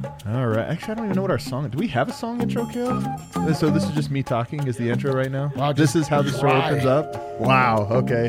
All right. Actually, I don't even know what our song is. Do we have a song intro, Caleb? So this is just me talking is the intro right now? Wow, this is how the story opens up? Wow. Okay.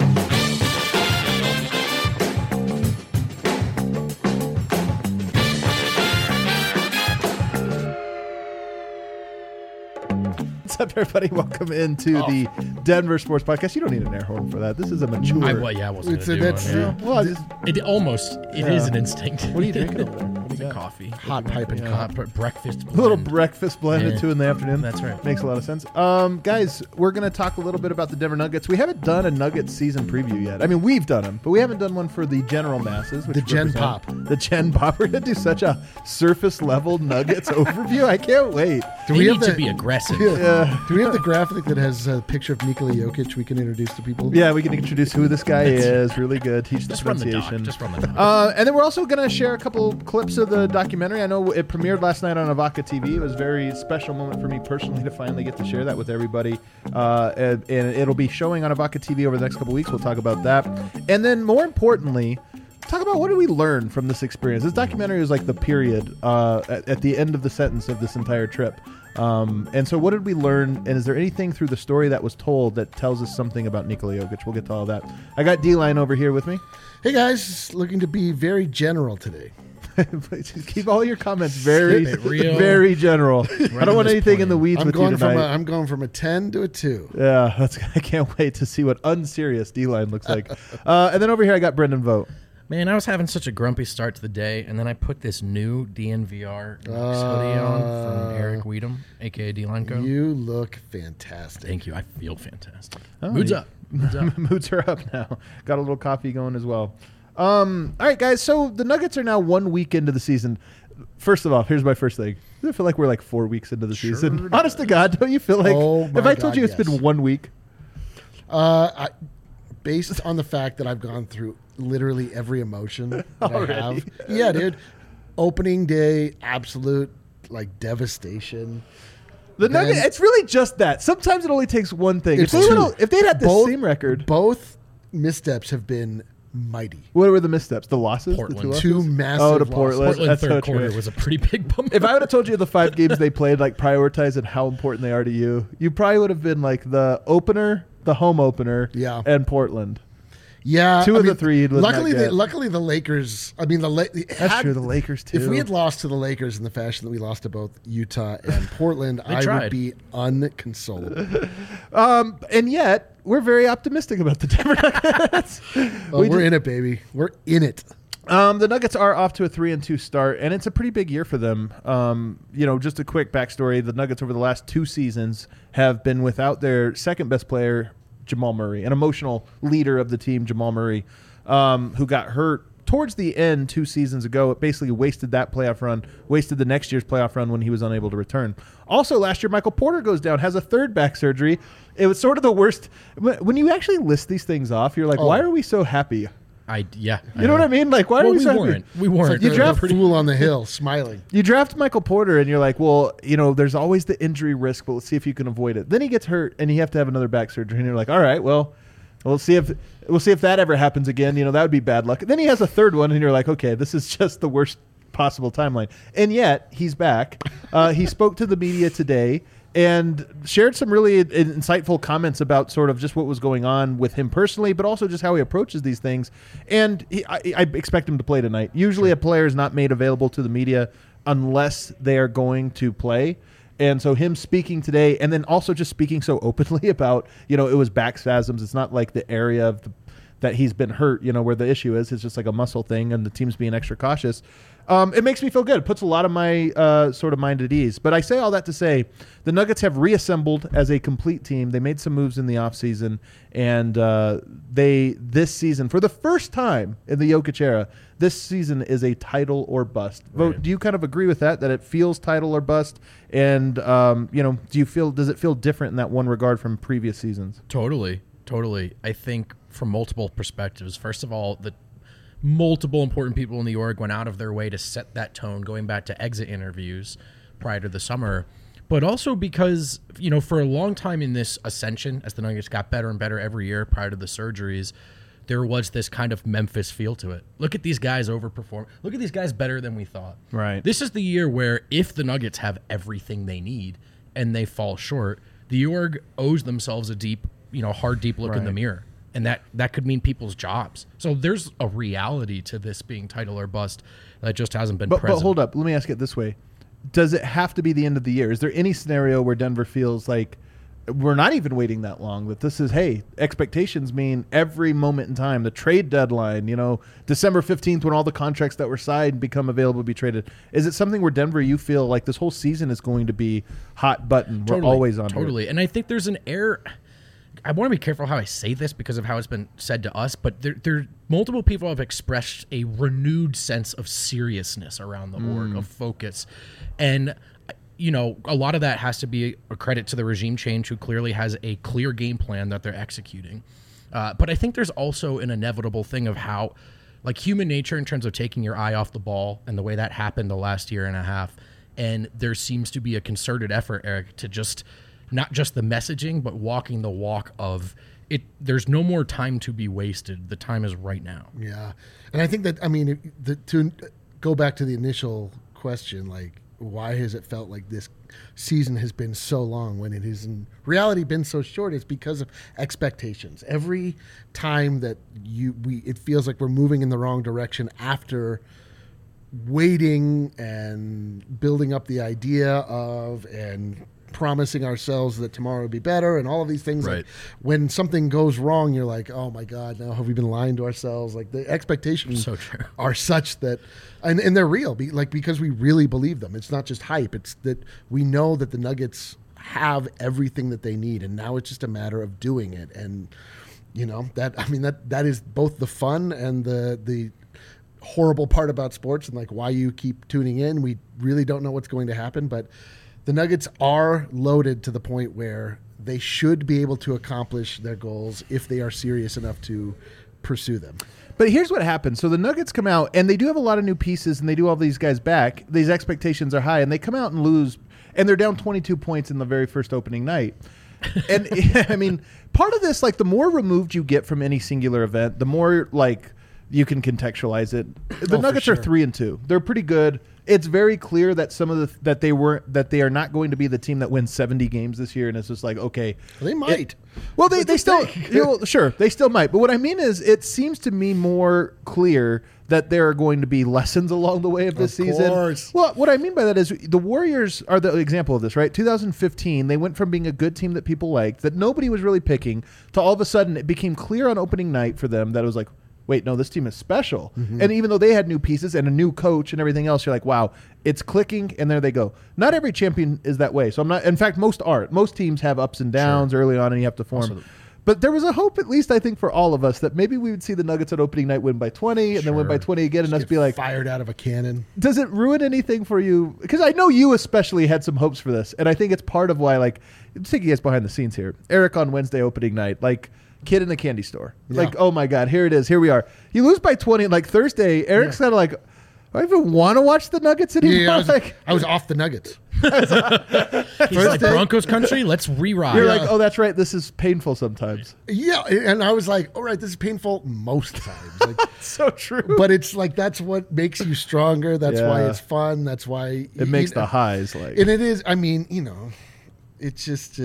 What's up, everybody? Welcome into the Denver Sports Podcast. You don't need an air horn for that. This is a mature... I wasn't going to do one. Well, It is an instinct. What are you drinking over there? What do you got? Coffee. Hot pipe and Hot breakfast blend. A little breakfast blend at Yeah. 2 in the afternoon. That's right. Makes a lot of sense. Guys, we're going to talk a little bit about the Denver Nuggets. We haven't done a Nuggets season preview yet. I mean, we've done them, but we haven't done one for the general masses. Which The Gen represent Pop. The Gen Pop. We're going to do such a surface-level Nuggets overview. I can't wait. Do They we need have to the, be aggressive. Do we have the graphic that has a picture of Nikola Jokic we can introduce to people? Yeah, we can introduce who this guy is. Really good. Teach the Just run the doc. pronunciation. Just run the doc. And then we're also going to share a couple clips of the documentary. I know it premiered last night on Avaca TV. It was a very special moment for me personally to finally get to share that with everybody. And it'll be showing on Avaca TV over the next couple weeks. We'll talk about that. And then more importantly, talk about what did we learn from this experience. This documentary is like the period at the end of the sentence of this entire trip. And so what did we learn? And is there anything through the story that was told that tells us something about Nikola Jokic? We'll get to all that. I got D-Line over here with me. Hey guys, looking to be very general today. Just keep all your comments very, Keep it real. very general. I don't want this anything in the plane. weeds I'm with you going tonight. I'm going from a 10 to a 2. Yeah, I can't wait to see what unserious D-Line looks like. And then over here I got Brendan Vogt. Man, I was having such a grumpy start to the day, and then I put this new DNVR hoodie on from Eric Weedham, a.k.a. D-Line Co. You look fantastic. Thank you. I feel fantastic. Oh, Moods yeah. up. Moods up. Moods are up now. Got a little coffee going as well. All right, guys. So the Nuggets are now 1 week into the season. First of all, here's my first thing. I feel like we're like 4 weeks into the season. Honest to God, don't you feel like if I told you it's been 1 week? Based on the fact that I've gone through literally every emotion that Already? I have. Yeah, dude. Opening day, absolute like devastation. The Then- Nuggets, it's really just that. Sometimes it only takes one thing. If It's they two. if they'd had the Both- same record, Both missteps have been mighty. what were the missteps? The losses? Portland. The two losses? Two massive Oh, to losses. Portland. Portland That's so third true. quarter was a pretty big bump. If I would have told you the 5 games they played, like prioritize and how important they are to you, you probably would have been like the opener, the home opener, Yeah. and Portland. Yeah, Two of the three you'd Luckily, not get. luckily the Lakers. I mean, That's true. The Lakers too. If we had lost to the Lakers in the fashion that we lost to both Utah and Portland, I tried. would be unconsolable. and yet we're very optimistic about the Denver Nuggets. We're in it, baby. We're in it. The Nuggets are off to a 3-2 start, and it's a pretty big year for them. Just a quick backstory: the Nuggets over the last 2 seasons have been without their second best player, Jamal Murray, an emotional leader of the team, Jamal Murray, who got hurt towards the end 2 seasons ago. It basically wasted that playoff run, wasted the next year's playoff run when he was unable to return. Also, last year, Michael Porter goes down, has a 3rd back surgery. It was sort of the worst. When you actually list these things off, you're like, why are we so happy? Yeah. You know what I mean? Like, why are we so happy? weren't. We weren't. You The draft fool on the hill, smiling. You draft Michael Porter, and you're like, well, there's always the injury risk, but let's see if you can avoid it. Then he gets hurt, and you have to have another back surgery, and you're like, all right, well, we'll see if that ever happens again. That would be bad luck. Then he has a 3rd one, and you're like, okay, this is just the worst possible timeline. And yet he's back. He spoke to the media today and shared some really insightful comments about sort of just what was going on with him personally, but also just how he approaches these things. And I expect him to play tonight. Usually a player is not made available to the media unless they are going to play. And so him speaking today, and then also just speaking so openly about, it was back spasms. It's not like the area of that he's been hurt, where the issue is. It's just like a muscle thing, and the team's being extra cautious. It makes me feel good. It puts a lot of my sort of mind at ease. But I say all that to say the Nuggets have reassembled as a complete team. They made some moves in the offseason, and this season, for the first time in the Jokic era, this season is a title or bust. Right. Vogt, do you kind of agree with that it feels title or bust? And, does it feel different in that one regard from previous seasons? Totally. I think from multiple perspectives. First of all, the multiple important people in the org went out of their way to set that tone, going back to exit interviews prior to the summer. But also because, for a long time in this ascension, as the Nuggets got better and better every year prior to the surgeries, there was this kind of Memphis feel to it. Look at these guys overperform. Look at these guys better than we thought. Right. This is the year where if the Nuggets have everything they need and they fall short, the org owes themselves a deep, hard, deep look in the mirror. And that could mean people's jobs. So there's a reality to this being title or bust that just hasn't been present. But hold up. Let me ask it this way. Does it have to be the end of the year? Is there any scenario where Denver feels like we're not even waiting that long, that this is, hey, expectations mean every moment in time, the trade deadline, December 15th when all the contracts that were signed become available to be traded. Is it something where Denver, you feel like this whole season is going to be hot button? We're always on Totally. it. And I think there's an air. I want to be careful how I say this because of how it's been said to us, but there multiple people have expressed a renewed sense of seriousness around the org, of focus. And a lot of that has to be a credit to the regime change, who clearly has a clear game plan that they're executing. But I think there's also an inevitable thing of how, like, human nature in terms of taking your eye off the ball and the way that happened the last year and a half. And there seems to be a concerted effort, Eric, to just not just the messaging, but walking the walk of it. There's no more time to be wasted. The time is right now. Yeah. And I think that, to go back to the initial question, like, why has it felt like this season has been so long when it has in reality been so short? It's because of expectations. Every time that it feels like we're moving in the wrong direction after waiting and building up the idea of and promising ourselves that tomorrow will be better and all of these things. Right. Like, when something goes wrong, you're like, oh my God, now have we been lying to ourselves? Like, the expectations are such that, and they're real, because we really believe them. It's not just hype. It's that we know that the Nuggets have everything that they need, and now it's just a matter of doing it. And that is both the fun and the horrible part about sports, and like why you keep tuning in. We really don't know what's going to happen, but the Nuggets are loaded to the point where they should be able to accomplish their goals if they are serious enough to pursue them. But here's what happens. So the Nuggets come out, and they do have a lot of new pieces, and they do all these guys back. These expectations are high, and they come out and lose, and they're down 22 points in the very first opening night. And, part of this, like, the more removed you get from any singular event, the more, like, you can contextualize it. The Nuggets are 3-2. They're pretty good. It's very clear that that they are not going to be the team that wins 70 games this year, and it's just like, okay, they might. They still, sure, they still might. But what I mean is, it seems to me more clear that there are going to be lessons along the way of this season. Well, what I mean by that is the Warriors are the example of this, right? 2015, they went from being a good team that people liked, that nobody was really picking, to all of a sudden it became clear on opening night for them that it was like, wait, no, this team is special. Mm-hmm. And even though they had new pieces and a new coach and everything else, you're like, wow, it's clicking, and there they go. Not every champion is that way. So I'm not, in fact, most aren't. Most teams have ups and downs early on, and you have to form. But there was a hope, at least I think, for all of us, that maybe we would see the Nuggets at opening night win by 20 and then win by 20 again, and us be like, fired out of a cannon. Does it ruin anything for you? Because I know you especially had some hopes for this, and I think it's part of why, like, let's take you guys behind the scenes here. Eric on Wednesday opening night, like, kid in a candy store. Yeah. Like, oh my God, here it is. Here we are. You lose by 20, and like Thursday, Eric's kind of like, do I even want to watch the Nuggets anymore? Yeah, I was off the Nuggets. He's like, Broncos country, let's re-ride. You're like, oh, that's right. This is painful sometimes. Yeah, and I was like, all right, this is painful most times. Like, so true. But it's like, that's what makes you stronger. That's why it's fun. That's why it makes the highs like. And it is. It's just.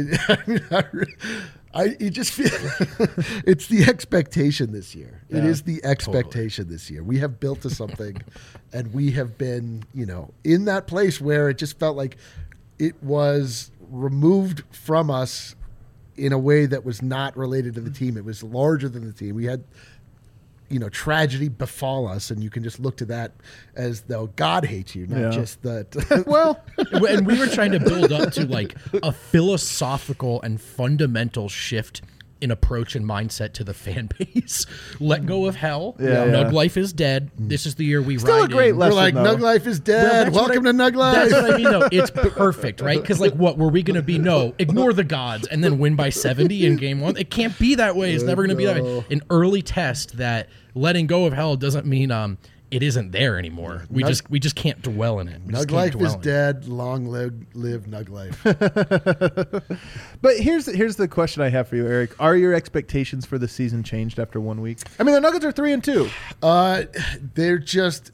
You just feel it's the expectation this year. Yeah, it is the expectation this year. We have built to something, and we have been, in that place where it just felt like it was removed from us in a way that was not related to the team. It was larger than the team. We had, tragedy befall us, and you can just look to that as though God hates you, not just that. Well, and we were trying to build up to like a philosophical and fundamental shift in approach and mindset to the fan base. Let go of hell. Nug life is dead. This is the year we Still ride a great in. lesson, we're like, Nug life is dead. Welcome to Nug life. That's what I mean, though. It's perfect, right? Because, like, what were we going to be? No, ignore the gods and then win by 70 in game one. It can't be that way. It's never going to be that way. An early test that letting go of hell doesn't mean it isn't there anymore. We just can't dwell in it. Nug life is dead. Long live Nug life. But here's the question I have for you, Eric. Are your expectations for the season changed after 1 week? I mean, the Nuggets are 3-2. They're just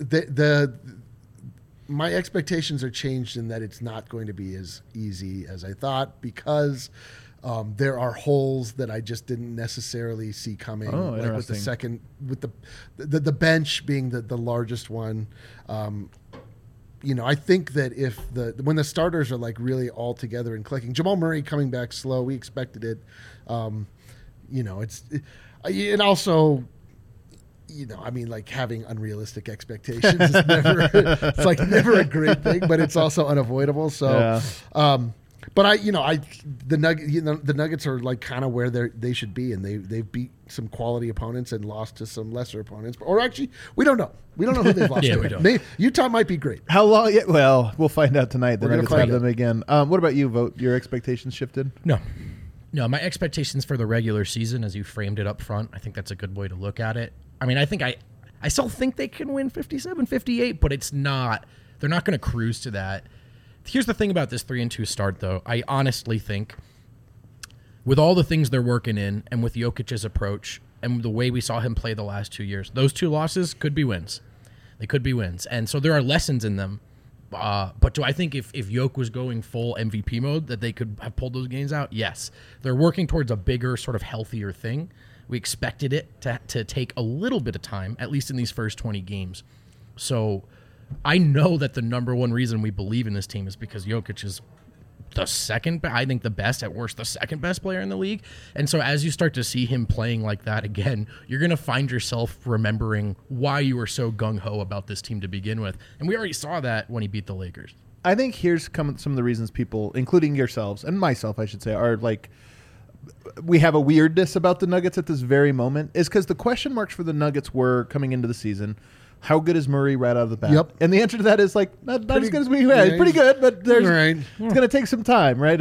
my expectations are changed in that it's not going to be as easy as I thought because there are holes that I just didn't necessarily see coming. Oh, like with the second, with the bench being the largest one. I think that when the starters are like really all together and clicking, Jamal Murray coming back slow, we expected it. And also, I mean, like having unrealistic expectations is never a great thing, but it's also unavoidable. So, but the Nuggets are like kind of where they should be, and they've beat some quality opponents and lost to some lesser opponents. Or actually, we don't know. We don't know who they've lost to. We don't. Utah might be great. How long? Yeah, well, we'll find out tonight. The Nuggets have them again. What about you, Vogt? Your expectations shifted? No, my expectations for the regular season, as you framed it up front, I think that's a good way to look at it. I mean, I still think they can win 57-58, but it's not. They're not going to cruise to that. Here's the thing about this 3-2 start, though. I honestly think with all the things they're working in and with Jokic's approach and the way we saw him play the last 2 years, those 2 losses could be wins. They could be wins. And so there are lessons in them. But do I think if Jokic was going full MVP mode that they could have pulled those games out? Yes. They're working towards a bigger, sort of healthier thing. We expected it to take a little bit of time, at least in these first 20 games. So I know that the number one reason we believe in this team is because Jokic is the second, I think the best, at worst, the second best player in the league. And so as you start to see him playing like that again, you're going to find yourself remembering why you were so gung-ho about this team to begin with. And we already saw that when he beat the Lakers. I think here's some of the reasons people, including yourselves and myself, I should say, are like, we have a weirdness about the Nuggets at this very moment is because the question marks for the Nuggets were coming into the season, how good is Murray right out of the bat? Yep. And the answer to that is like not as good as we had. Pretty good, but it's going to take some time, right?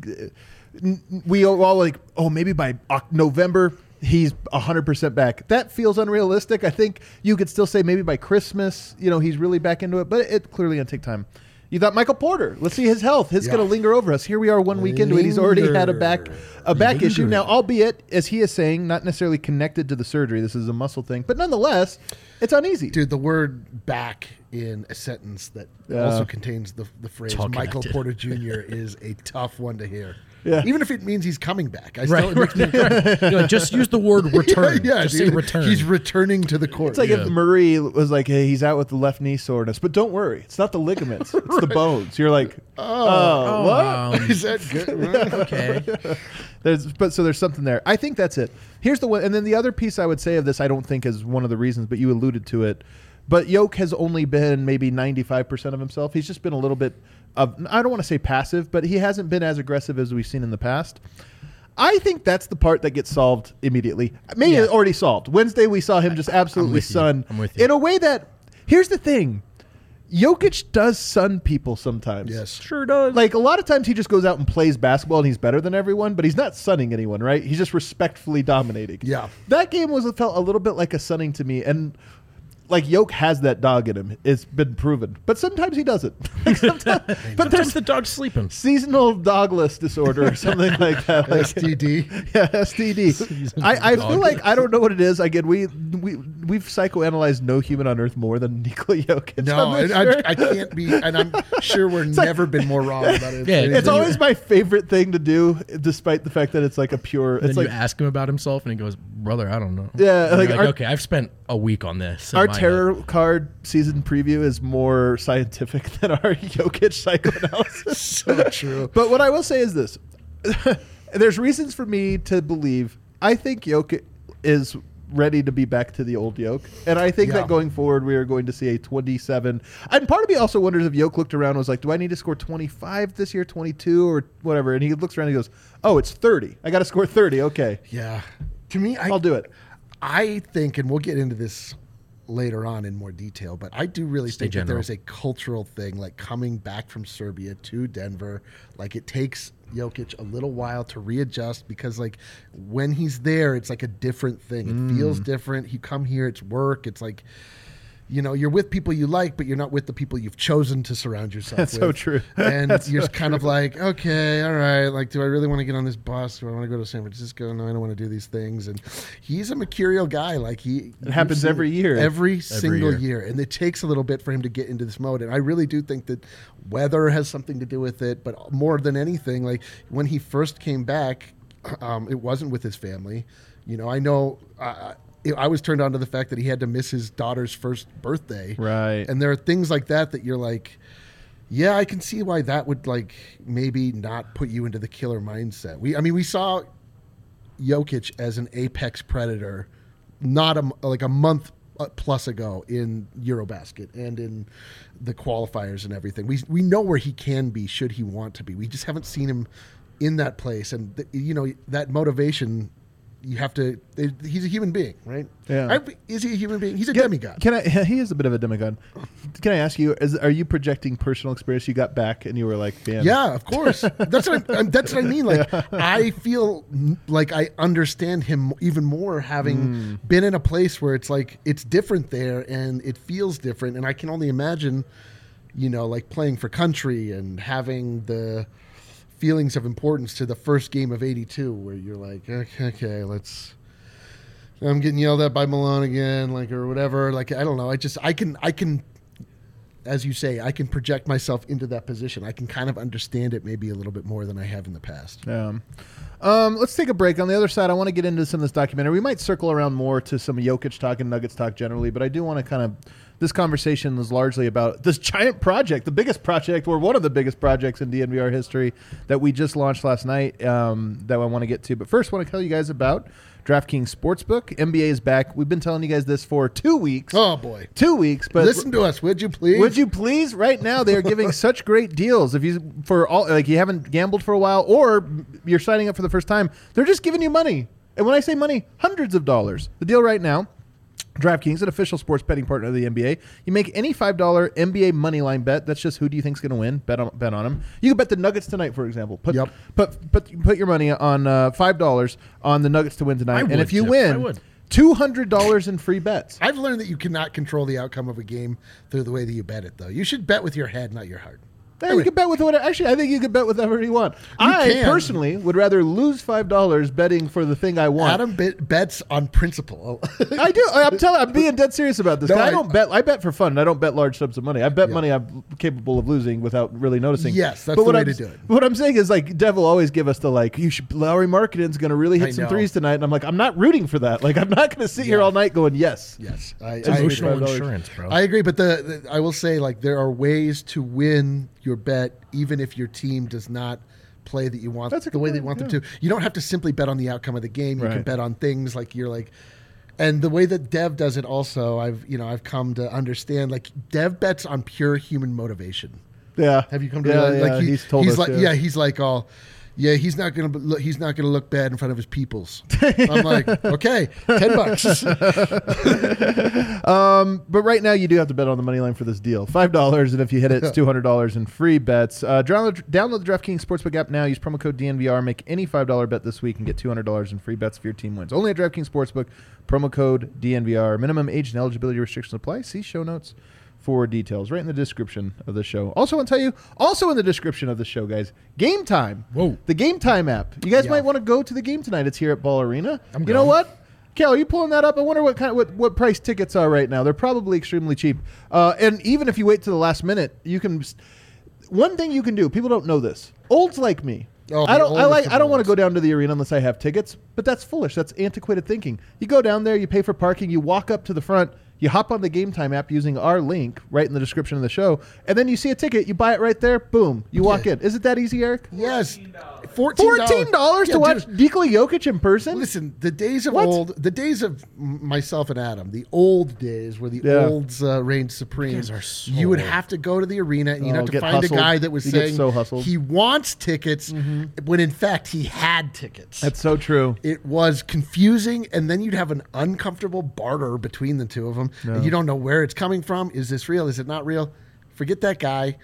We all like, maybe by November he's 100% back. That feels unrealistic. I think you could still say maybe by Christmas, he's really back into it, but it clearly going to take time. You thought Michael Porter. Let's see his health. He's going to linger over us. Here we are 1 week into it. He's already had a back issue. Now, albeit, as he is saying, not necessarily connected to the surgery. This is a muscle thing. But nonetheless, it's uneasy. Dude, the word back in a sentence that also contains the phrase Michael Porter Jr. is a tough one to hear. Yeah. Even if it means he's coming back. Just use the word return. Just say return. He's returning to the court. It's like if Murray was like, hey, he's out with the left knee soreness. But don't worry. It's not the ligaments. It's the bones. You're like, what? Is that good? Okay. There's something there. I think that's it. Here's the one. And then the other piece I would say of this, I don't think is one of the reasons, but you alluded to it. But Jokic has only been maybe 95% of himself. He's just been a little bit of, I don't want to say passive, but he hasn't been as aggressive as we've seen in the past. I think that's the part that gets solved immediately. Maybe already solved. Wednesday we saw him just absolutely sun. I'm with you. In a way that, here's the thing. Jokic does sun people sometimes. Yes. Sure does. Like a lot of times he just goes out and plays basketball and he's better than everyone, but he's not sunning anyone, right? He's just respectfully dominating. Yeah. That game felt a little bit like a sunning to me, and like Jokic has that dog in him. It's been proven, but sometimes he doesn't. But there's the dog sleeping. Seasonal dogless disorder or something like that. Like, STD. Yeah, STD. I feel like I don't know what it is. Again, we've psychoanalyzed no human on earth more than Nikola Jokic. No, I can't be, and I'm sure we've never been more wrong about it. Yeah, it's always my favorite thing to do, despite the fact that it's like a pure. Then it's like you ask him about himself, and he goes, "Brother, I don't know." Yeah, like okay, I've spent a week on this. Our tarot card season preview is more scientific than our Jokic psychoanalysis. So true. But what I will say is this. There's reasons for me to believe I think Jokic is ready to be back to the old Jokic. And I think that going forward, we are going to see a 27. And part of me also wonders if Jokic looked around and was like, do I need to score 25 this year, 22 or whatever? And he looks around and he goes, oh, it's 30. I got to score 30. Okay. Yeah. To me, I'll do it. I think, and we'll get into this later on in more detail, but I do really think that there is a cultural thing, like coming back from Serbia to Denver. Like it takes Jokic a little while to readjust because like when he's there, it's like a different thing. It feels different. You come here, it's work. It's like, you're with people you like, but you're not with the people you've chosen to surround yourself That's with. so true. And That's you're so kind of like, okay, all right, like, do I really want to get on this bus? Do I want to go to San Francisco? No, I don't want to do these things. And he's a mercurial guy. Like it happens every year. Every single year. And it takes a little bit for him to get into this mode. And I really do think that weather has something to do with it. But more than anything, like when he first came back, it wasn't with his family. I know I was turned on to the fact that he had to miss his daughter's first birthday. Right. And there are things like that you're like, yeah, I can see why that would like maybe not put you into the killer mindset. We saw Jokic as an apex predator not a month plus ago in Eurobasket and in the qualifiers and everything. We know where he can be should he want to be. We just haven't seen him in that place. And that motivation, you have to. He's a human being, right? Yeah. Is he a human being? He's a demigod. He is a bit of a demigod. Can I ask you? Are you projecting personal experience? You got back and you were like, "Man, yeah, of course." That's what I mean. Like, I feel like I understand him even more having been in a place where it's like it's different there and it feels different, and I can only imagine, like playing for country and having the feelings of importance to the first game of 82 where you're like, okay, I'm getting yelled at by Malone again, like, or whatever. Like, I don't know. I can, as you say, I can project myself into that position. I can kind of understand it maybe a little bit more than I have in the past. Let's take a break. On the other side, I want to get into some of this documentary. We might circle around more to some Jokic talk and Nuggets talk generally, but I do want to kind of, this conversation is largely about this giant project, the biggest project or one of the biggest projects in DNVR history that we just launched last night that I want to get to. But first, I want to tell you guys about DraftKings Sportsbook. NBA is back. We've been telling you guys this for 2 weeks. Oh, boy. 2 weeks. But listen to us, would you please? Would you please? Right now, they are giving such great deals. If you you haven't gambled for a while or you're signing up for the first time, they're just giving you money. And when I say money, hundreds of dollars. The deal right now, DraftKings, an official sports betting partner of the NBA. You make any $5 NBA moneyline bet. That's just who do you think's going to win. Bet on them. You can bet the Nuggets tonight, for example. Put your money on $5 on the Nuggets to win tonight. And if you win, $200 in free bets. I've learned that you cannot control the outcome of a game through the way that you bet it, though. You should bet with your head, not your heart. Yeah, you can bet with whatever. Actually, I think you can bet with whatever you want. I personally would rather lose $5 betting for the thing I want. Adam bets on principle. I do. I'm being dead serious about this. No, I don't bet. I bet for fun. I don't bet large sums of money. I bet money I'm capable of losing without really noticing. Yes, that's the way to do it. What I'm saying is, like, Dev will always give us the Lauri Markkanen's going to really hit some threes tonight, and I'm like, I'm not rooting for that. Like, I'm not going to sit here all night going, yes. Emotional insurance, bro. I agree, but I will say, like, there are ways to win your bet even if your team does not play the way that you want them to. You don't have to simply bet on the outcome of the game. You can bet on things like and the way that Dev does it also, I've come to understand, like, Dev bets on pure human motivation. Yeah. Have you come to that? Yeah, like he's told us. Like, yeah, he's like all, yeah, he's not gonna look bad in front of his peoples. I'm like, okay, $10. But right now you do have to bet on the money line for this deal. $5, and if you hit it, it's $200 in free bets. Download the DraftKings Sportsbook app now. Use promo code DNVR. Make any $5 bet this week and get $200 in free bets if your team wins. Only at DraftKings Sportsbook. Promo code DNVR. Minimum age and eligibility restrictions apply. See show notes for details right in the description of the show. Also, I want to tell you, also in the description of the show, guys, Game Time. Whoa. The Game Time app. You guys might want to go to the game tonight. It's here at Ball Arena. You know what? Cal, are you pulling that up? I wonder what price tickets are right now. They're probably extremely cheap. And even if you wait to the last minute, you can. One thing you can do. People don't know this. Olds like me. I don't want to go down to the arena unless I have tickets. But that's foolish. That's antiquated thinking. You go down there. You pay for parking. You walk up to the front. You hop on the Game Time app using our link right in the description of the show, and then you see a ticket. You buy it right there. Boom. You walk in. Is it that easy, Eric? Yes. $14 to watch Nikola Jokic in person? Listen, the days of myself and Adam, the old days where the olds reigned supreme, you would have to go to the arena and you'd have to find a guy that was saying he wants tickets when in fact he had tickets. That's so true. It was confusing, and then you'd have an uncomfortable barter between the two of them. No. And you don't know where it's coming from. Is this real? Is it not real? Forget that guy.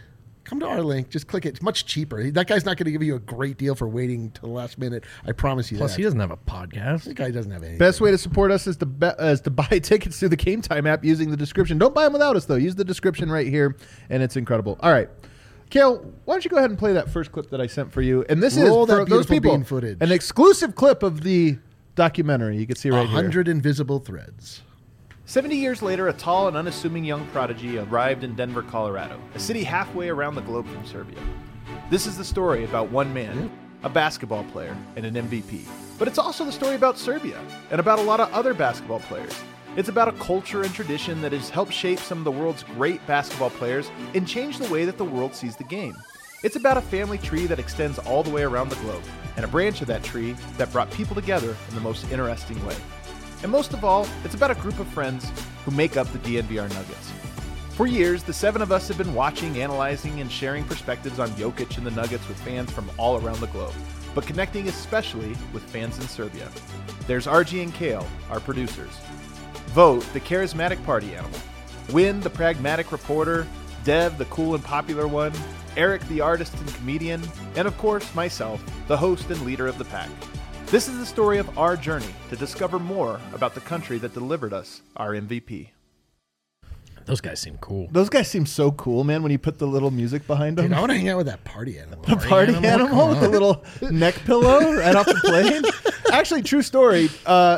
come to our link. Just click it. It's much cheaper. That guy's not going to give you a great deal for waiting till the last minute. I promise you Plus, that. he doesn't have a podcast. That guy doesn't have anything. Best way to support us is to buy tickets through the Game Time app using the description. Don't buy them without us, though. Use the description right here, and it's incredible. All right. Kale, why don't you go ahead and play that first clip that I sent for you? And this Roll is, for that those beautiful people, bean footage. an exclusive clip of the documentary. You can see right 100 here. invisible threads. 70 years later, a tall and unassuming young prodigy arrived in Denver, Colorado, a city halfway around the globe from Serbia. This is the story about one man, a basketball player, and an MVP. But it's also the story about Serbia, and about a lot of other basketball players. It's about a culture and tradition that has helped shape some of the world's great basketball players and change the way that the world sees the game. It's about a family tree that extends all the way around the globe, and a branch of that tree that brought people together in the most interesting way. And most of all, it's about a group of friends who make up the DNVR Nuggets. For years, the 7 of us have been watching, analyzing, and sharing perspectives on Jokic and the Nuggets with fans from all around the globe, but connecting especially with fans in Serbia. There's RG and Kale, our producers. Vote, the charismatic party animal. Win, the pragmatic reporter. Dev, the cool and popular one. Eric, the artist and comedian. And of course, myself, the host and leader of the pack. This is the story of our journey to discover more about the country that delivered us our MVP. Those guys seem cool. Those guys seem so cool, man, when you put the little music behind them. Dude, I want to hang out with that party animal. The party animal with the little neck pillow right off the plane. Actually, true story.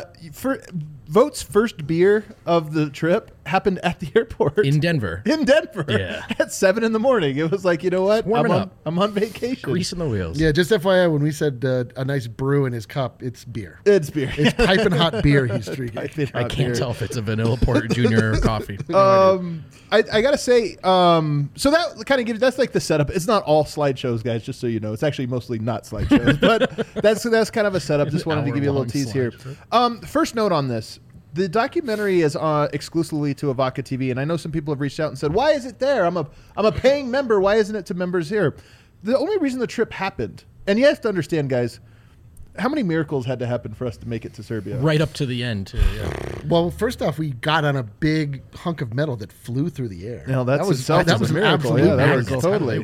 Vote's first beer of the trip happened at the airport. In Denver. In Denver. Yeah. At 7 in the morning. It was like, you know what? Warming up. I'm on vacation. Greasing the wheels. Yeah, just FYI, when we said a nice brew in his cup, it's beer. It's beer. It's piping hot beer he's drinking. I can't tell if it's a vanilla porter junior or coffee. I gotta say, so that kind of gives, that's like the setup. It's not all slideshows, guys, just so you know. It's actually mostly not slideshows, but that's kind of a setup. Just wanted to give you a little tease here. First note on this. The documentary is exclusively to Avaca TV, and I know some people have reached out and said, "Why is it there? I'm a paying member. Why isn't it to members here?" The only reason the trip happened, and you have to understand, guys, how many miracles had to happen for us to make it to Serbia? Right up to the end, too. Yeah. Well, first off, we got on a big hunk of metal that flew through the air. No, that was an a miracle. Yeah, that was miracle. totally.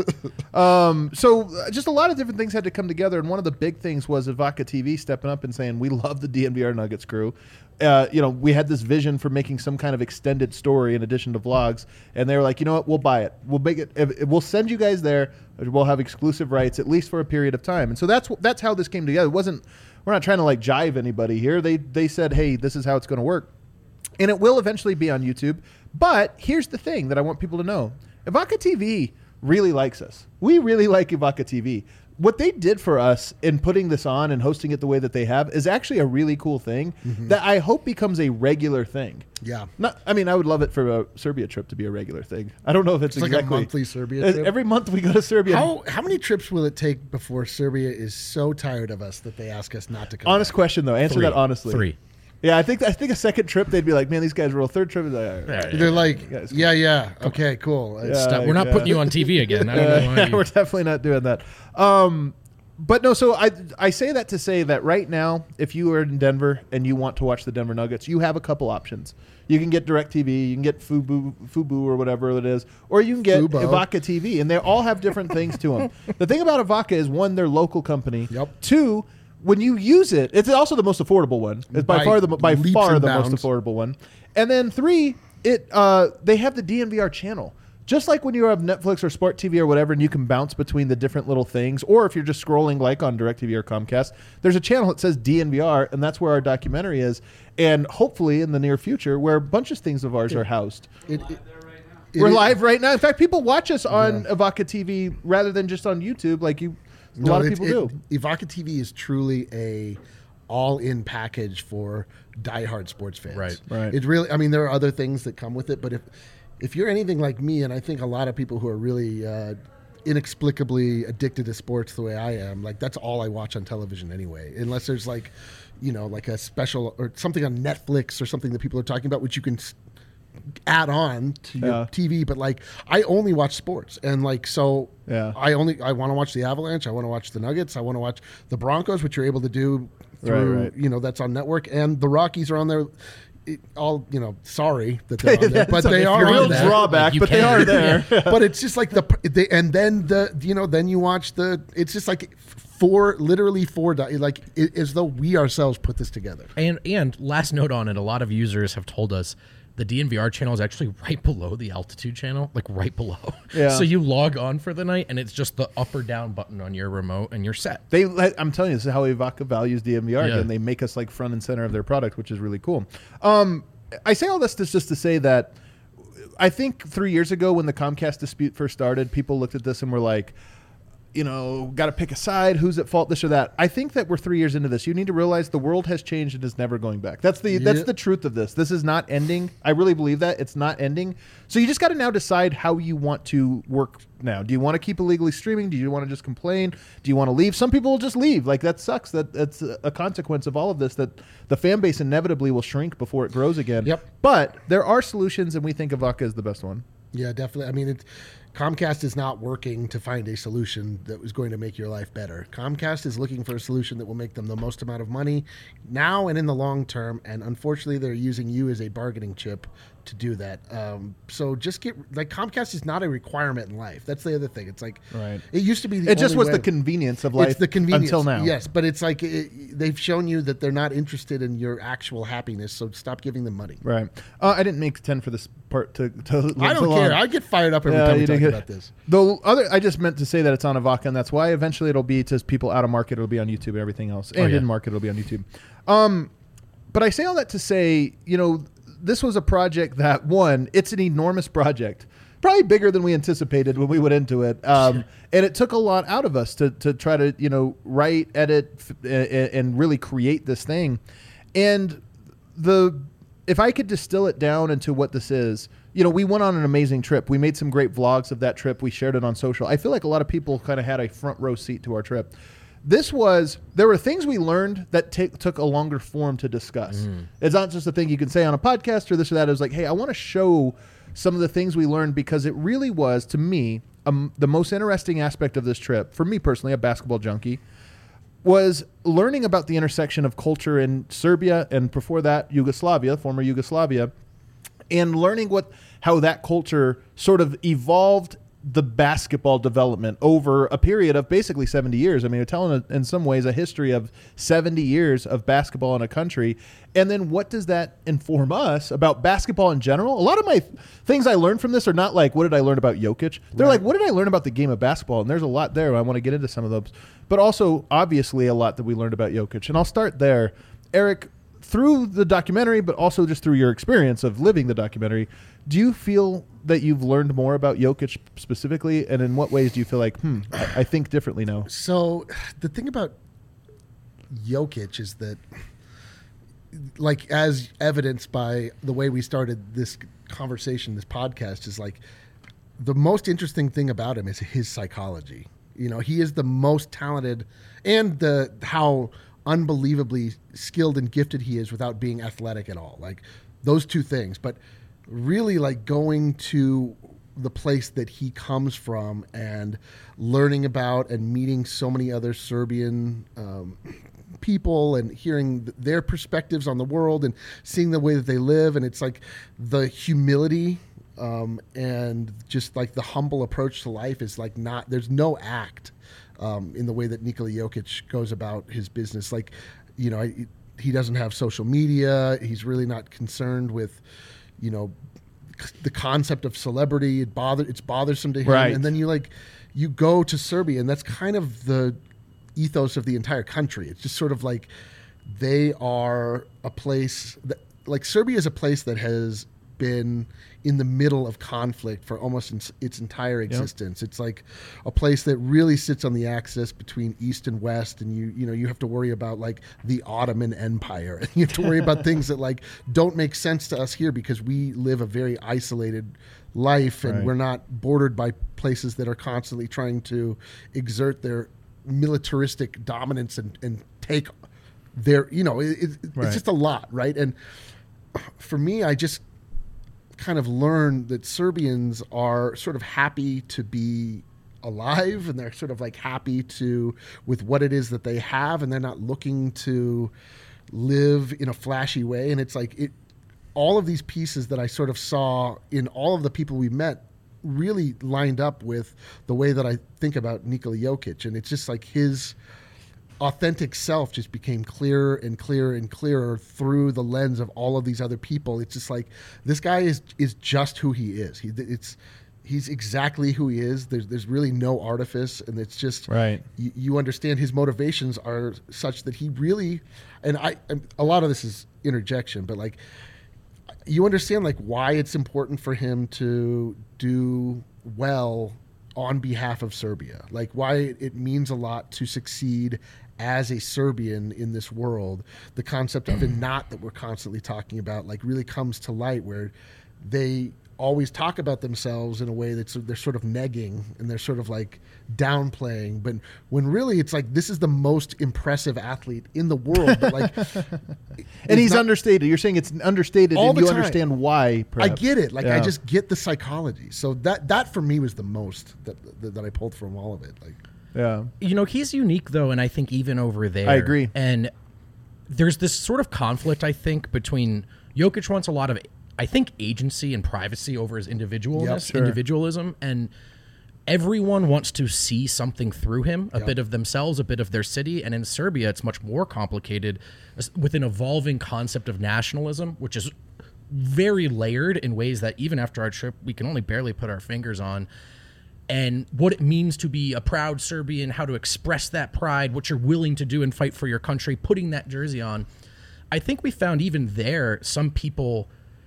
So just a lot of different things had to come together, and one of the big things was Avaca TV stepping up and saying, "We love the DNVR Nuggets crew." We had this vision for making some kind of extended story in addition to vlogs, and they were like, "You know what? We'll buy it. We'll make it. We'll send you guys there. We'll have exclusive rights at least for a period of time." And so that's how this came together. We're not trying to like jive anybody here. They said, "Hey, this is how it's going to work," and it will eventually be on YouTube. But here's the thing that I want people to know: Avaca TV really likes us. We really like Avaca TV. What they did for us in putting this on and hosting it the way that they have is actually a really cool thing that I hope becomes a regular thing. Yeah. I would love it for a Serbia trip to be a regular thing. I don't know if it's like exactly a monthly Serbia trip. Every month we go to Serbia. How many trips will it take before Serbia is so tired of us that they ask us not to come? Honest back? question though. Answer that honestly. 3. Yeah, I think a second trip they'd be like, "Man, these guys roll." Third trip is like, all right. They're like, guys, yeah, okay, cool. Yeah. We're not putting you on TV again. I don't know why We're definitely not doing that. But no, so I say that to say that right now, if you are in Denver and you want to watch the Denver Nuggets, you have a couple options. You can get DirecTV, you can get Fubo or whatever it is, or you can get Fubo. Avaca TV, and they all have different things to them. The thing about Avaca is, one, they're local company. Yep. Two, when you use it, it's also the most affordable one. It's by far the most leaps and bounds. affordable one. And then 3, they have the DNVR channel. Just like when you have Netflix or Sport TV or whatever, and you can bounce between the different little things, or if you're just scrolling like on DirecTV or Comcast, there's a channel that says DNVR, and that's where our documentary is. And hopefully in the near future, where a bunch of things of ours are housed. We're live right now. In fact, people watch us on Avaca TV rather than just on YouTube, like a lot of people do. Avaca TV is truly a all-in package for diehard sports fans. Right. It really. I mean, there are other things that come with it, but if you're anything like me, and I think a lot of people who are really inexplicably addicted to sports the way I am, like that's all I watch on television anyway, unless there's like a special or something on Netflix or something that people are talking about, which you can add on to your TV. But like, I only watch sports, and like, so I want to watch the Avalanche, I want to watch the Nuggets, I want to watch the Broncos, which you're able to do through, that's on network, and the Rockies are on there. all sorry that they're on there, but they a are real on there. drawback, Like, you but they can. are there. But it's just like and then then you watch it's just like literally four like as though we ourselves put this together. And last note on it, a lot of users have told us the DNVR channel is actually right below the altitude channel, like right below. Yeah. So you log on for the night, and it's just the up or down button on your remote, and you're set. I'm telling you, this is how Evoca values DNVR, Yeah. and they make us like front and center of their product, which is really cool. I say all this just to say that I think 3 years ago when the Comcast dispute first started, people looked at this and were like, got to pick a side, who's at fault, this or that. I think that we're 3 years into this. You need to realize the world has changed and is never going back. That's the truth of this. This is not ending. I really believe that. It's not ending. So you just got to now decide how you want to work now. Do you want to keep illegally streaming? Do you want to just complain? Do you want to leave? Some people will just leave. Like, that sucks. That's a consequence of all of this, that the fan base inevitably will shrink before it grows again. Yep. But there are solutions, and we think Evoca is the best one. Yeah, definitely. I mean, Comcast is not working to find a solution that was going to make your life better. Comcast is looking for a solution that will make them the most amount of money now and in the long term. And unfortunately, they're using you as a bargaining chip to do that. So just Comcast is not a requirement in life. That's the other thing. It's like, Right. It used to be It just was the convenience of life. It's the convenience until now. Yes, but it's like they've shown you that they're not interested in your actual happiness. So stop giving them money. Right. I didn't make 10 for this part to I don't care. I get fired up every time we talk about this. I just meant to say that it's on Evoca, and that's why eventually it'll be to people out of market. It'll be on YouTube and everything else, and in market it'll be on YouTube. But I say all that to say, this was a project that it's an enormous project, probably bigger than we anticipated when we went into it, and it took a lot out of us to try to write, edit, and really create this thing, and if I could distill it down into what this is, we went on an amazing trip. We made some great vlogs of that trip. We shared it on social. I feel like a lot of people kind of had a front row seat to our trip. There were things we learned that took a longer form to discuss. It's not just a thing you can say on a podcast or this or that. It was like, hey, I want to show some of the things we learned, because it really was, to me, the most interesting aspect of this trip, for me personally, a basketball junkie, was learning about the intersection of culture in Serbia and before that former Yugoslavia, and learning how that culture sort of evolved the basketball development over a period of basically 70 years. I mean, you're telling, in some ways, a history of 70 years of basketball in a country. And then what does that inform us about basketball in general? A lot of my things I learned from this are not like, what did I learn about Jokic? They're like, what did I learn about the game of basketball? And there's a lot there. I want to get into some of those. But also, obviously, a lot that we learned about Jokic. And I'll start there. Eric, through the documentary, but also just through your experience of living the documentary, do you feel that you've learned more about Jokic specifically? And in what ways do you feel like, I think differently now? So the thing about Jokic is that, like, as evidenced by the way we started this conversation, this podcast, is like the most interesting thing about him is his psychology. He is the most talented, and how unbelievably skilled and gifted he is without being athletic at all. Like, those two things. But really, like, going to the place that he comes from and learning about and meeting so many other Serbian people and hearing their perspectives on the world and seeing the way that they live. And it's like the humility and just like the humble approach to life is like there's no act in the way that Nikola Jokic goes about his business. Like, he doesn't have social media. He's really not concerned with, the concept of celebrity. It's bothersome to him. Right. And then you go to Serbia, and that's kind of the ethos of the entire country. It's just sort of like they are a place that, like, Serbia is a place that has been in the middle of conflict for almost its entire existence. Yep. It's like a place that really sits on the axis between East and West, and you have to worry about like the Ottoman Empire, and you have to worry about things that like don't make sense to us here because we live a very isolated life, and we're not bordered by places that are constantly trying to exert their militaristic dominance and take their, it's just a lot, right? And for me, I just kind of learned that Serbians are sort of happy to be alive, and they're sort of like happy with what it is that they have, and they're not looking to live in a flashy way. And it's like all of these pieces that I sort of saw in all of the people we met really lined up with the way that I think about Nikola Jokic. And it's just like his authentic self just became clearer and clearer and clearer through the lens of all of these other people. It's just like, this guy is just who he is. He's exactly who he is. There's really no artifice, and it's just right. You understand his motivations are such that he really, and a lot of this is interjection, but like, you understand like why it's important for him to do well on behalf of Serbia, like why it means a lot to succeed as a Serbian in this world. The concept of a knot that we're constantly talking about like really comes to light, where they always talk about themselves in a way that's they're sort of negging and they're sort of like downplaying, but when really it's like, this is the most impressive athlete in the world, but like and he's understated. You're saying it's understated and you understand why, perhaps. I get it. Like, I just get the psychology. So that for me was the most that I pulled from all of it. Like, yeah, you know, he's unique though, and I think even over there, I agree. And there's this sort of conflict, I think, between Jokic wants a lot of, I think, agency and privacy over his individualism, and everyone wants to see something through him, a bit of themselves, a bit of their city. And in Serbia, it's much more complicated with an evolving concept of nationalism, which is very layered in ways that even after our trip, we can only barely put our fingers on. And what it means to be a proud Serbian, how to express that pride, what you're willing to do and fight for your country, putting that jersey on. I think we found even there, some people,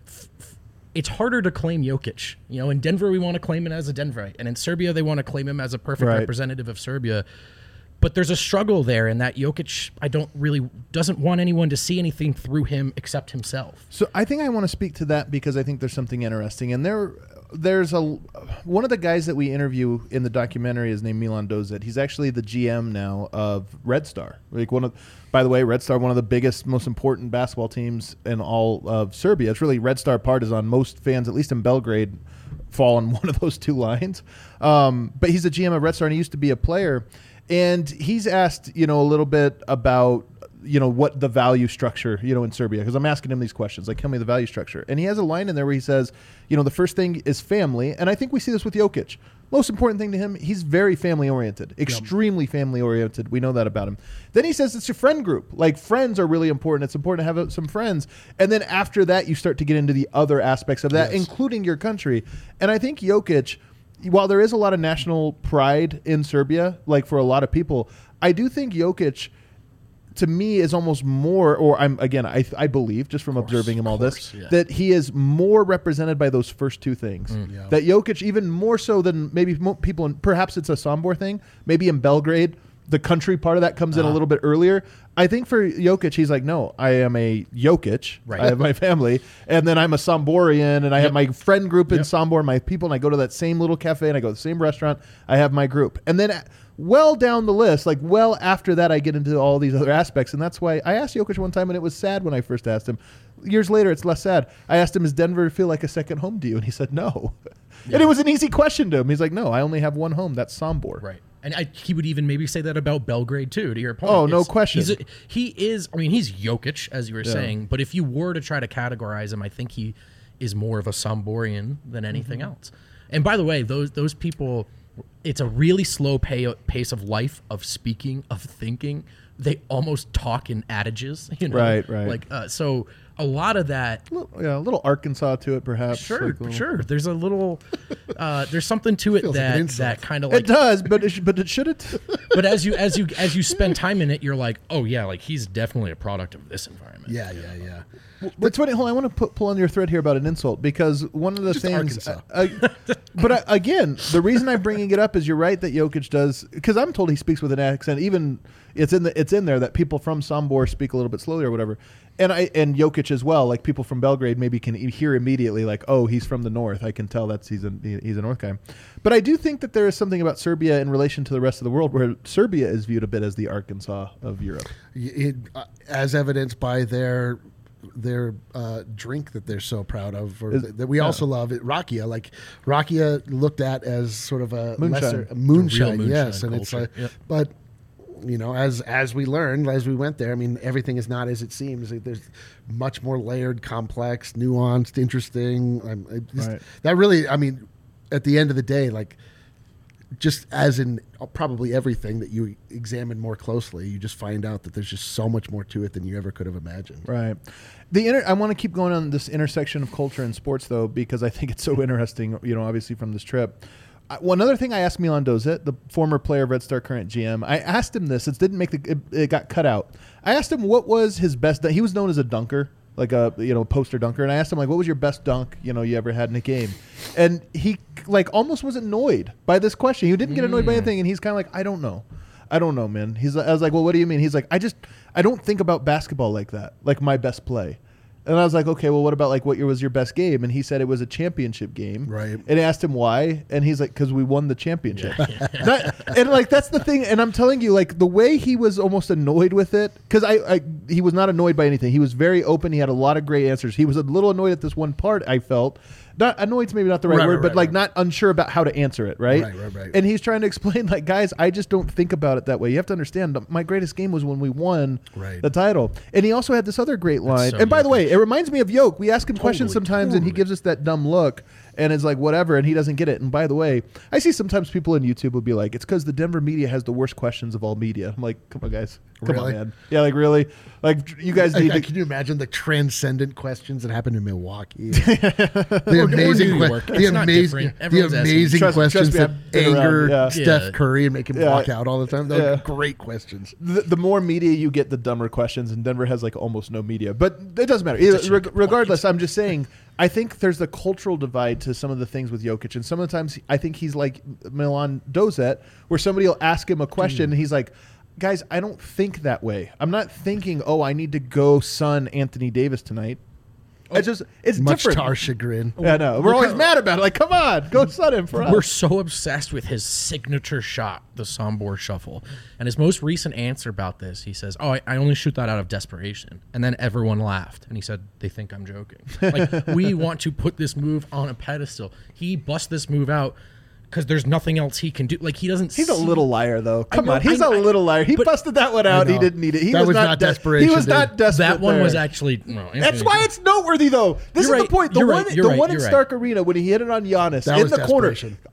it's harder to claim Jokic. You know, in Denver, we want to claim him as a Denverite. And in Serbia, they want to claim him as a perfect representative of Serbia. But there's a struggle there in that Jokic, doesn't want anyone to see anything through him except himself. So I think I want to speak to that because I think there's something interesting. And there's one of the guys that we interview in the documentary is named Milan Dozet. He's actually the GM now of Red Star. By the way, Red Star, one of the biggest, most important basketball teams in all of Serbia. It's really Red Star Partizan. Most fans, at least in Belgrade, fall on one of those two lines. But he's the GM of Red Star, and he used to be a player. And he's asked, a little bit about, what the value structure, in Serbia, because I'm asking him these questions, like, tell me the value structure. And he has a line in there where he says, the first thing is family. And I think we see this with Jokic. Most important thing to him, he's very family-oriented, extremely family-oriented. We know that about him. Then he says it's your friend group. Like, friends are really important. It's important to have some friends. And then after that, you start to get into the other aspects of that, including your country. And I think Jokic, while there is a lot of national pride in Serbia, like for a lot of people, I do think Jokic, to me, is almost more, or I believe, just from observing him all this, that he is more represented by those first two things. That Jokic, even more so than maybe people, perhaps it's a Sombor thing, maybe in Belgrade, the country part of that comes in a little bit earlier. I think for Jokic, he's like, no, I am a Jokic. Right. I have my family, and then I'm a Somborian, and I have my friend group in Sombor, my people, and I go to that same little cafe, and I go to the same restaurant. I have my group. And then well down the list, like well after that, I get into all these other aspects, and that's why I asked Jokic one time, and it was sad when I first asked him. Years later, it's less sad. I asked him, does Denver feel like a second home to you? And he said, no. And it was an easy question to him. He's like, no, I only have one home. That's Sombor. Right. And he would even maybe say that about Belgrade, too, to your point. Oh, no question. He's Jokic, as you were saying, but if you were to try to categorize him, I think he is more of a Somborian than anything else. And by the way, those people, it's a really slow pace of life, of speaking, of thinking. They almost talk in adages, Right. Like, so a lot of that, a little Arkansas to it, perhaps. Sure. There's a little, there's something to it that kind of like it does, but it shouldn't. But as you spend time in it, you're like, oh yeah, like he's definitely a product of this environment. Yeah. That's funny. Hold on, I want to pull on your thread here about an insult, because one of the things. But again, the reason I'm bringing it up is you're right that Jokic does, because I'm told he speaks with an accent. Even it's in there that people from Sombor speak a little bit slowly or whatever. And Jokic as well, like people from Belgrade maybe can hear immediately, like, oh, he's from the north. I can tell he's a north guy. But I do think that there is something about Serbia in relation to the rest of the world where Serbia is viewed a bit as the Arkansas of Europe. As evidenced by their drink that they're so proud of, that we also love, Rakia. Like Rakia looked at as sort of a moonshine. lesser moonshine, moonshine yes, and culture. it's but as we learned, as we went there, I mean, everything is not as it seems. Like, there's much more layered, complex, nuanced, interesting. Right. That really, I mean, at the end of the day, like, just as in probably everything that you examine more closely, you just find out that there's just so much more to it than you ever could have imagined. Right. I want to keep going on this intersection of culture and sports, though, because I think it's so interesting, obviously from this trip. One other thing I asked Milan Dozet, the former player of Red Star, current GM, I asked him this. It didn't make it got cut out. I asked him what was his best. He was known as a dunker, like a poster dunker, and I asked him like, what was your best dunk you ever had in a game? And he like almost was annoyed by this question. He didn't get annoyed by anything, and he's kind of like, I don't know, man. I was like, well, what do you mean? He's like, I don't think about basketball like that, like my best play. And I was like, okay, well, what about like what was your best game? And he said it was a championship game. Right. And I asked him why, and he's like, because we won the championship. Yeah. And like that's the thing. And I'm telling you, like the way he was almost annoyed with it, because he was not annoyed by anything. He was very open. He had a lot of great answers. He was a little annoyed at this one part. I felt. Not annoyed's maybe not the right word, but like not unsure about how to answer it, right? Right. And he's trying to explain, like, guys, I just don't think about it that way. You have to understand, my greatest game was when we won the title. And he also had this other great line. So and by the way, it reminds me of Yoke. We ask him questions sometimes, and he totally. gives us that dumb look, and is like, whatever, and he doesn't get it. And by the way, I see sometimes people on YouTube will be like, it's because the Denver media has the worst questions of all media. I'm like, come on, guys. Come on, man. Yeah, like, really? Like, you guys need to... Can you imagine the transcendent questions that happened in Milwaukee? The amazing questions that anger Steph Curry and make him walk out all the time. Those are great questions. The more media you get, the dumber questions, and Denver has like almost no media. But it doesn't matter. Regardless, I'm just saying, I think there's a cultural divide to some of the things with Jokic, and some of the times I think he's like Milan Dozet, where somebody will ask him a question, and he's like, guys, I don't think that way. I'm not thinking, I need to go sun Anthony Davis tonight. It's much different. To our chagrin. Yeah, no, we're always mad about it. Like, come on, go sun him for us. We're so obsessed with his signature shot, the Sombor Shuffle. And his most recent answer about this, he says, I only shoot that out of desperation. And then everyone laughed. And he said, they think I'm joking. Like, we want to put this move on a pedestal. He busts this move out because there's nothing else he can do. Like, he doesn't. He's a little liar, though. Come on, he's a little liar. He busted that one out. He didn't need it. That was not desperation. He was not desperate. That one there. was actually. No, that's why it's noteworthy, though. This is the point. The one in Stark Arena when he hit it on Giannis in the corner,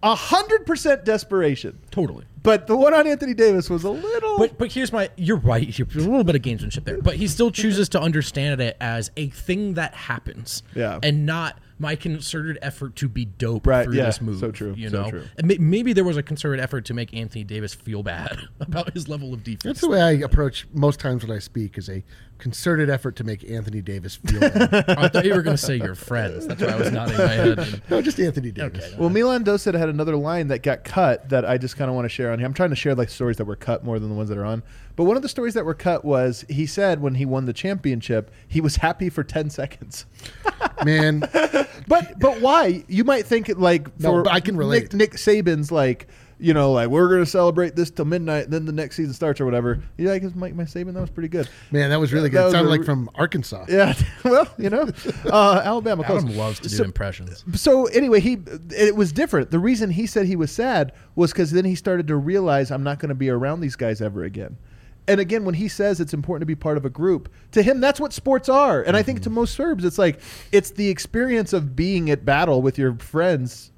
100% desperation. Totally. But the one on Anthony Davis was a little. But here's you're right. There's a little bit of gamesmanship there. But he still chooses to understand it as a thing that happens. Yeah. And not my concerted effort to be dope through this move. So true. True. And maybe there was a concerted effort to make Anthony Davis feel bad about his level of defense. That's the way I approach most times when I speak, is a concerted effort to make Anthony Davis feel bad. I thought you were going to say your friends. That's why I was nodding my head. No, just Anthony Davis. Okay. Well, Milan Dozet had another line that got cut that I just kind of want to share on here. I'm trying to share like stories that were cut more than the ones that are on. But one of the stories that were cut was he said when he won the championship, he was happy for 10 seconds. Man. But why? You might think like for I can relate. Nick Saban's like, like we're going to celebrate this till midnight, and then the next season starts or whatever. Yeah, I guess Mike Saban, that was pretty good. Man, that was really good. It sounded like from Arkansas. Yeah, well, Alabama. Adam loves to do impressions. So anyway, it was different. The reason he said he was sad was because then he started to realize I'm not going to be around these guys ever again. And again, when he says it's important to be part of a group, to him, that's what sports are. And I think to most Serbs, it's like, it's the experience of being at battle with your friends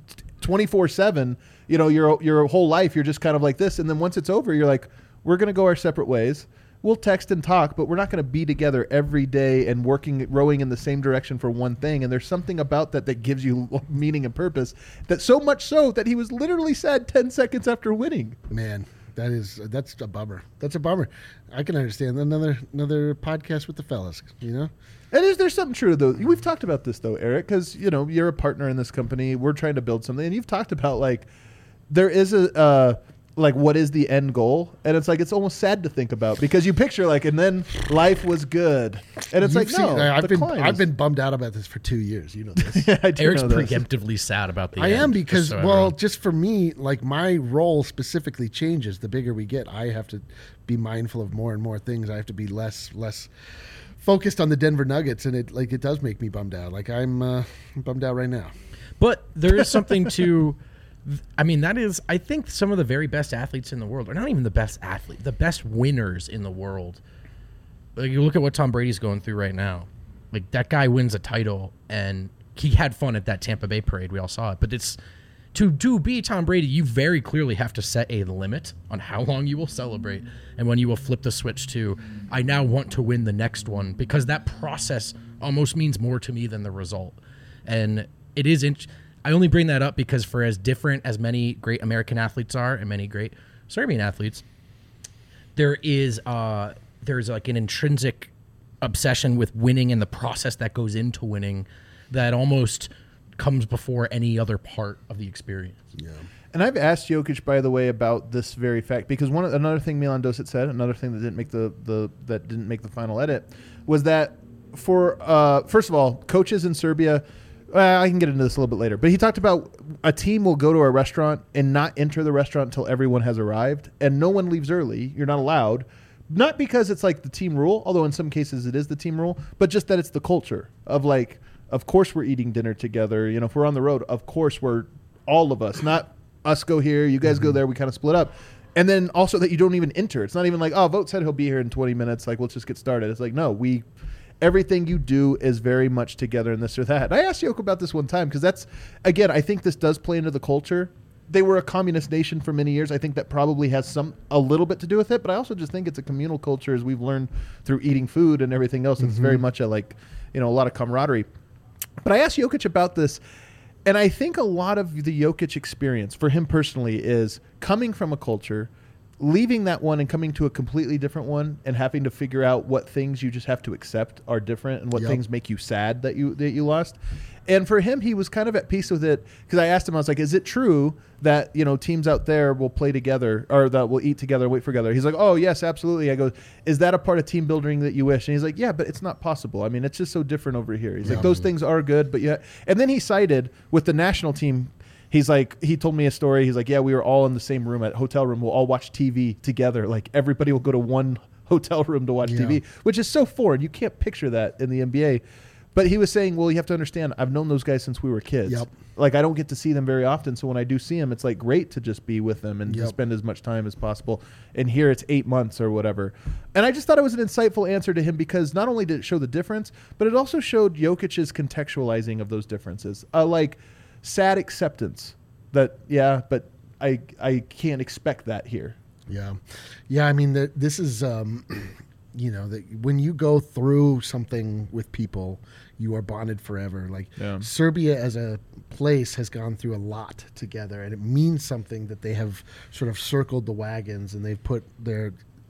24/7, your whole life, you're just kind of like this. And then once it's over, you're like, we're going to go our separate ways. We'll text and talk, but we're not going to be together every day and rowing in the same direction for one thing. And there's something about that gives you meaning and purpose, that so much so that he was literally sad 10 seconds after winning. Man. That's a bummer. That's a bummer. I can understand another podcast with the fellas, And there's something true though. We've talked about this though, Eric, because you're a partner in this company. We're trying to build something, and you've talked about like there is what is the end goal, and it's like it's almost sad to think about because you picture like, and then life was good, and it's I've been bummed out about this for 2 years. You know this. Yeah, I do Eric's know this. preemptively sad about the I end, am because everyone. just for me, like my role specifically changes the bigger we get. I have to be mindful of more and more things. I have to be less focused on the Denver Nuggets, and it does make me bummed out. Like I'm bummed out right now. But there is something to I mean, that is, I think some of the very best athletes in the world, or not even the best athlete, the best winners in the world. Like, you look at what Tom Brady's going through right now. Like, that guy wins a title, and he had fun at that Tampa Bay parade. We all saw it. But it's, to be Tom Brady, you very clearly have to set a limit on how long you will celebrate and when you will flip the switch to, I now want to win the next one, because that process almost means more to me than the result. And it is, I only bring that up because for as different as many great American athletes are and many great Serbian athletes, there's like an intrinsic obsession with winning and the process that goes into winning that almost comes before any other part of the experience. Yeah. And I've asked Jokic, by the way, about this very fact, because another thing Milan Dosic said, another thing that didn't make the final edit, was that for first of all, coaches in Serbia, I can get into this a little bit later, but he talked about a team will go to a restaurant and not enter the restaurant until everyone has arrived, and no one leaves early. You're not allowed. Not because it's like the team rule, although in some cases it is the team rule, but just that it's the culture of like, of course we're eating dinner together. You know, if we're on the road, of course we're all of us, not us go here, you guys go there, we kind of split up. And then also that you don't even enter. It's not even like, oh, Vogt said he'll be here in 20 minutes. Like, let's just get started. It's like, no, everything you do is very much together in this or that. I asked Yoko about this one time because that's, again, I think this does play into the culture. They were a communist nation for many years. I think that probably has a little bit to do with it, but I also just think it's a communal culture, as we've learned through eating food and everything else. It's very much a lot of camaraderie. But I asked Jokic about this, and I think a lot of the Jokic experience for him personally is coming from a culture, leaving that one and coming to a completely different one, and having to figure out what things you just have to accept are different and what things make you sad that you lost. And for him, he was kind of at peace with it, because I asked him, I was like, is it true that, teams out there will play together or that will eat together, wait for together? He's like, oh, yes, absolutely. I go, is that a part of team building that you wish? And he's like, yeah, but it's not possible. I mean, it's just so different over here. He's like, those things are good, but yeah. And then he cited with the national team, he's like, he told me a story. He's like, yeah, we were all in the same room at hotel room. We'll all watch TV together. Like, everybody will go to one hotel room to watch TV, which is so foreign. You can't picture that in the NBA. But he was saying, well, you have to understand, I've known those guys since we were kids. Yep. Like, I don't get to see them very often. So when I do see them, it's like great to just be with them and to spend as much time as possible. And here it's 8 months or whatever. And I just thought it was an insightful answer to him, because not only did it show the difference, but it also showed Jokic's contextualizing of those differences. Like sad acceptance that, but I can't expect that here. Yeah. Yeah, I mean, this is, that when you go through something with people, you are bonded forever. Like Serbia as a place has gone through a lot together, and it means something that they have sort of circled the wagons and they've put their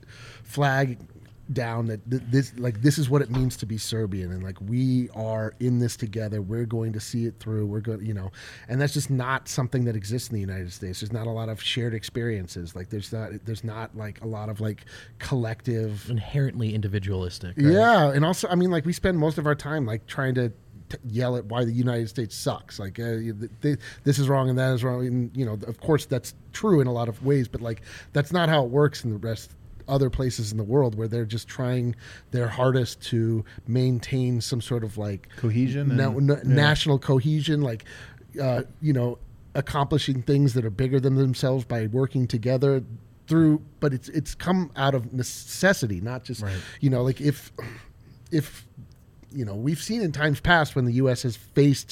flag down that this is what it means to be Serbian, and like we are in this together. We're going to see it through. We're going, and that's just not something that exists in the United States. There's not a lot of shared experiences. Like there's not like a lot of like collective, inherently individualistic. Right? Yeah, and also, I mean, like we spend most of our time like trying to yell at why the United States sucks. Like this is wrong and that is wrong. And of course that's true in a lot of ways, but like that's not how it works in the rest. Other places in the world where they're just trying their hardest to maintain some sort of like cohesion, national cohesion, like accomplishing things that are bigger than themselves by working together through. But it's come out of necessity, not just like if we've seen in times past when the U.S. has faced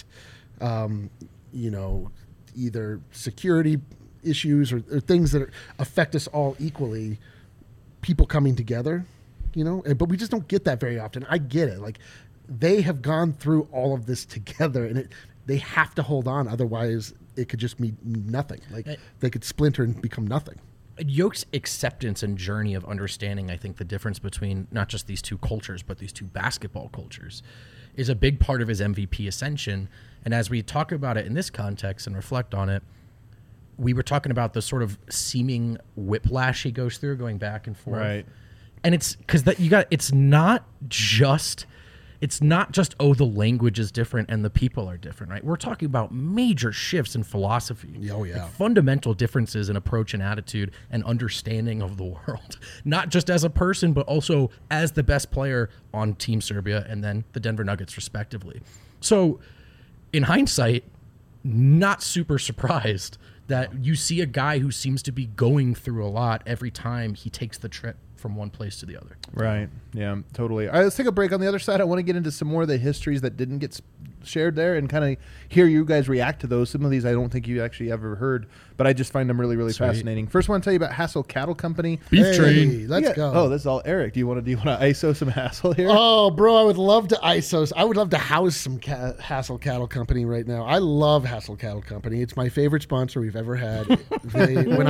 either security issues or things that affect us all equally. People coming together, but we just don't get that very often. I get it. Like they have gone through all of this together, and they have to hold on. Otherwise it could just mean nothing. Like they could splinter and become nothing. Yoke's acceptance and journey of understanding, I think the difference between not just these two cultures, but these two basketball cultures is a big part of his MVP ascension. And as we talk about it in this context and reflect on it, we were talking about the sort of seeming whiplash he goes through, going back and forth. Right. And it's because it's not just the language is different and the people are different, right? We're talking about major shifts in philosophy. Oh yeah. Like fundamental differences in approach and attitude and understanding of the world. Not just as a person, but also as the best player on Team Serbia and then the Denver Nuggets respectively. So in hindsight, not super surprised that you see a guy who seems to be going through a lot every time he takes the trip from one place to the other. Right. Yeah, totally. All right, let's take a break. On the other side, I want to get into some more of the histories that didn't get shared there and kind of hear you guys react to those. Some of these I don't think you actually ever heard, but I just find them really, really fascinating. First, I want to tell you about Hassel Cattle Company. Beef train. Let's go. Oh, this is all Eric. Do you want to ISO some Hassel here? Oh, bro, I would love to ISO. I would love to house some Hassel Cattle Company right now. I love Hassel Cattle Company. It's my favorite sponsor we've ever had. When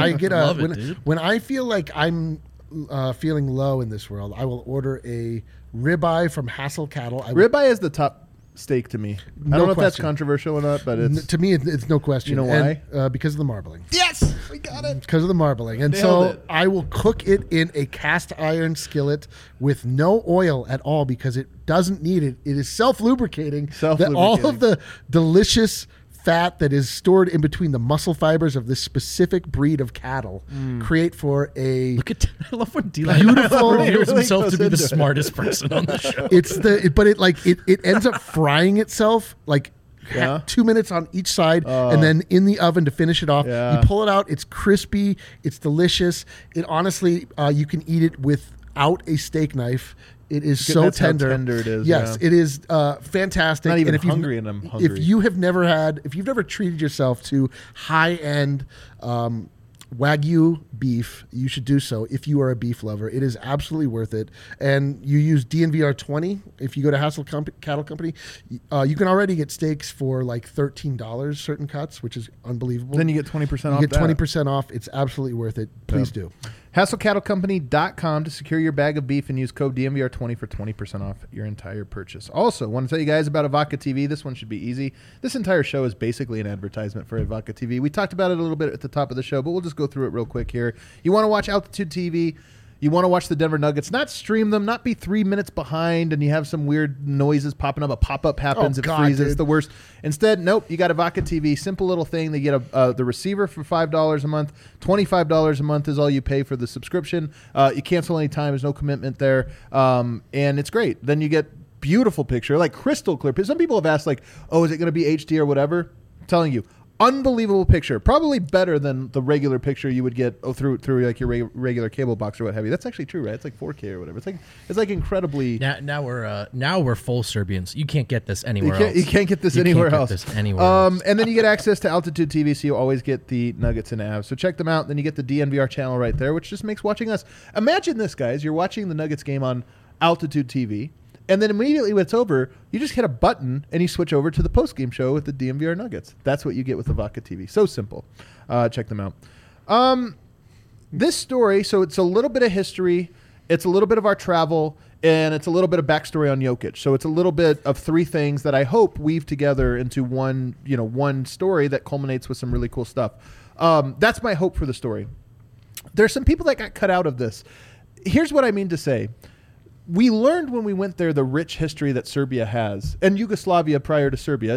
I feel like I'm feeling low in this world, I will order a ribeye from Hassel Cattle. Ribeye is the top steak to me. I don't know if that's question. controversial or not, but it's to me, it's no question. You know why? And, because of the marbling. yes, we got it. Because of the marbling. And Nailed so it. I will cook it in a cast iron skillet with no oil at all because it doesn't need it. It is self-lubricating. That all of the delicious fat that is stored in between the muscle fibers of this specific breed of cattle create for a I love when D-Line beautiful reveals really himself goes to be the into it. smartest person on the show. it ends up frying itself like Yeah. 2 minutes on each side and then in the oven to finish it off. Yeah. You pull it out, it's crispy, it's delicious. It honestly, you can eat it without a steak knife. It is so That's how tender. tender it is, Yes, yeah. it is fantastic. Not even And if you've- hungry and I'm hungry. If you've never treated yourself to high-end Wagyu beef, you should do so if you are a beef lover. It is absolutely worth it. And you use DNVR 20. If you go to Hassel Cattle Company, you can already get steaks for like $13 certain cuts, which is unbelievable. Then you get 20% off. You get that. 20% off. It's absolutely worth it. Please do. HassleCattleCompany.com to secure your bag of beef and use code DMVR20 for 20% off your entire purchase. Also, want to tell you guys about Avaca TV. This one should be easy. This entire show is basically an advertisement for Avaca TV. We talked about it a little bit at the top of the show, but we'll just go through it real quick here. You want to watch Altitude TV. You want to watch the Denver Nuggets, not stream them, not be 3 minutes behind and you have some weird noises popping up. A pop-up happens, it freezes, dude. it's the worst. Instead, nope, you got Avaca TV. Simple little thing. They get the receiver for $5 a month. $25 a month is all you pay for the subscription. You cancel any time. There's no commitment there. And it's great. Then you get beautiful picture, like crystal clear. Some people have asked, like, oh, is it going to be HD or whatever? I'm telling you. Unbelievable picture, probably better than the regular picture you would get through like your regular cable box or what have you. That's actually true, right? It's like 4K or whatever. It's like incredibly. Now we're full Serbians. You can't get this anywhere else. You can't get this anywhere else. else. And then you get access to Altitude TV, so you always get the Nuggets and Avs. So check them out. Then you get the DNVR channel right there, which just makes watching us. Imagine this, guys. You're watching the Nuggets game on Altitude TV. And then immediately when it's over, you just hit a button and you switch over to the post-game show with the DMVR Nuggets. That's what you get with Avaca TV. So simple. Check them out. This story, so it's a little bit of history, it's a little bit of our travel, and it's a little bit of backstory on Jokic. So it's a little bit of three things that I hope weave together into one story that culminates with some really cool stuff. That's my hope for the story. There's some people that got cut out of this. Here's what I mean to say. We learned when we went there the rich history that Serbia has, and Yugoslavia prior to Serbia,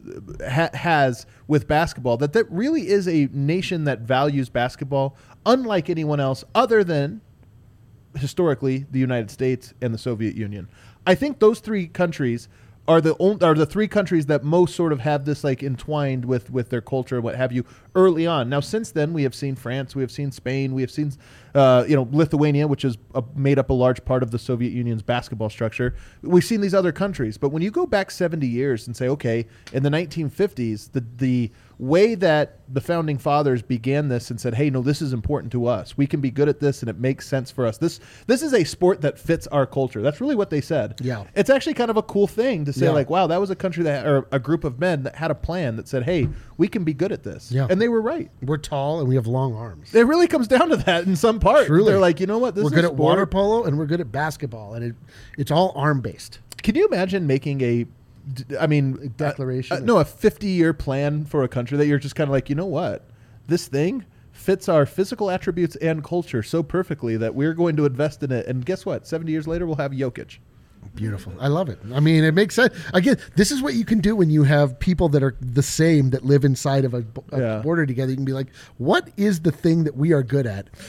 has with basketball, that really is a nation that values basketball unlike anyone else other than, historically, the United States and the Soviet Union. I think those three countries are the three countries that most sort of have this like entwined with their culture and what have you early on. Now, since then, we have seen France, we have seen Spain, we have seen Lithuania, which is made up a large part of the Soviet Union's basketball structure. We've seen these other countries, but when you go back 70 years and say, okay, in the 1950s, the way that the founding fathers began this and said, hey, no, this is important to us. We can be good at this and it makes sense for us. This is a sport that fits our culture. That's really what they said. Yeah. It's actually kind of a cool thing to say, Yeah. like, wow, that was a country or a group of men that had a plan that said, hey, we can be good at this. Yeah. And they were right. We're tall and we have long arms. It really comes down to that in some part. Truly. They're like, you know what? This We're is good a at water sport. polo and we're good at basketball, and it's all arm based. Can you imagine making a Declaration? a 50-year plan for a country that you're just kind of like, you know what? This thing fits our physical attributes and culture so perfectly that we're going to invest in it. And guess what? 70 years later, we'll have Jokic. Beautiful. I love it. I mean, it makes sense. Again, this is what you can do when you have people that are the same that live inside of a Yeah. border together. You can be like, what is the thing that we are good at?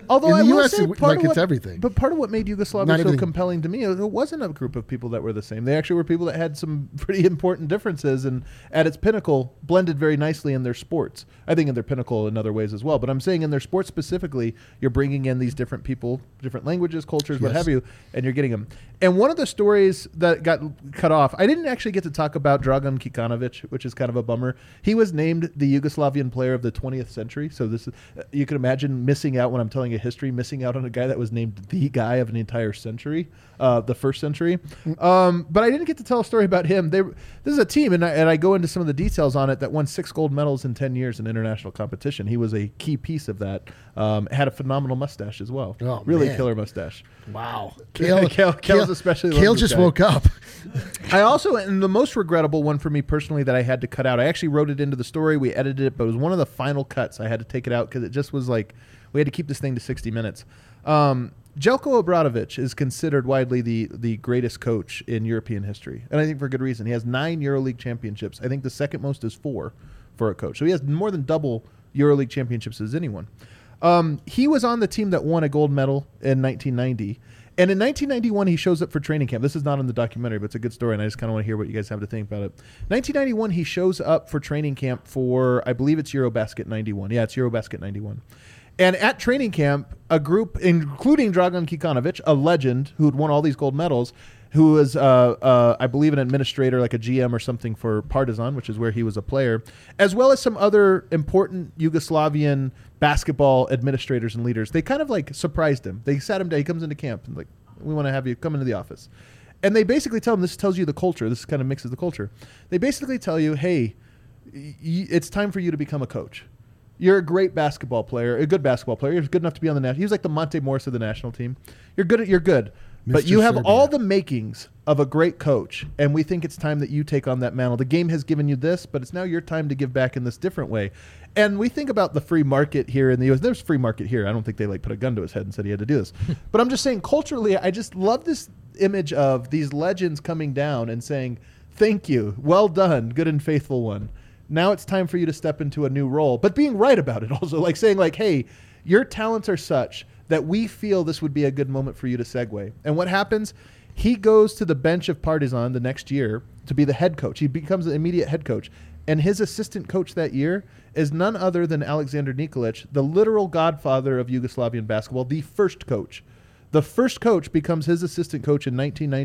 Although in I the will U.S., say part of it's what, everything. But part of what made Yugoslavia Not so everything. compelling to me, it wasn't a group of people that were the same. They actually were people that had some pretty important differences, and at its pinnacle, blended very nicely in their sports. I think in their pinnacle in other ways as well. But I'm saying in their sports specifically, you're bringing in these different people, different languages, cultures, what Yes. have you, and you're getting them. And one of the stories that got cut off, I didn't actually get to talk about Dragan Kikanovic, which is kind of a bummer. He was named the Yugoslavian player of the 20th century. So this is, you can imagine missing out when I'm telling a history, missing out on a guy that was named the guy of an entire century, the first century. But I didn't get to tell a story about him. This is a team, and I go into some of the details on it, that won 6 gold medals in 10 years in international competition. He was a key piece of that. Had a phenomenal mustache as well. Oh, really man. killer mustache. Wow. Kale's especially Kale loves this just guy. woke up. I also, and the most regrettable one for me personally that I had to cut out, I actually wrote it into the story, we edited it, but it was one of the final cuts. I had to take it out because it just was like, we had to keep this thing to 60 minutes. Jelko Obradovic is considered widely the greatest coach in European history. And I think for good reason. He has 9 EuroLeague championships. I think the second most is 4 for a coach. So he has more than double EuroLeague championships as anyone. He was on the team that won a gold medal in 1990. And in 1991, he shows up for training camp. This is not in the documentary, but it's a good story, and I just kind of want to hear what you guys have to think about it. 1991, he shows up for training camp for, I believe it's Eurobasket 91. Yeah, it's Eurobasket 91. And at training camp, a group, including Dragan Kikanovic, a legend who had won all these gold medals, who was, I believe, an administrator, like a GM or something for Partizan, which is where he was a player, as well as some other important Yugoslavian basketball administrators and leaders. They kind of like surprised him. They sat him down. He comes into camp and like, we want to have you come into the office. And they basically tell him, this tells you the culture. This kind of mixes the culture. They basically tell you, hey, it's time for you to become a coach. You're a great basketball player, a good basketball player. You're good enough to be on the national. He was like the Monte Morris of the national team. You're good. But Mr. you have Serbia. all the makings of a great coach, and we think it's time that you take on that mantle. The game has given you this, but it's now your time to give back in this different way. And we think about the free market here in the U.S. There's free market here. I don't think they like put a gun to his head and said he had to do this. But I'm just saying culturally, I just love this image of these legends coming down and saying, thank you, well done, good and faithful one. Now it's time for you to step into a new role, but being right about it also, like saying like, hey, your talents are such that we feel this would be a good moment for you to segue. And what happens? He goes to the bench of Partizan the next year to be the head coach. He becomes the immediate head coach. And his assistant coach that year is none other than Alexander Nikolic, the literal godfather of Yugoslavian basketball, the first coach. The first coach becomes his assistant coach in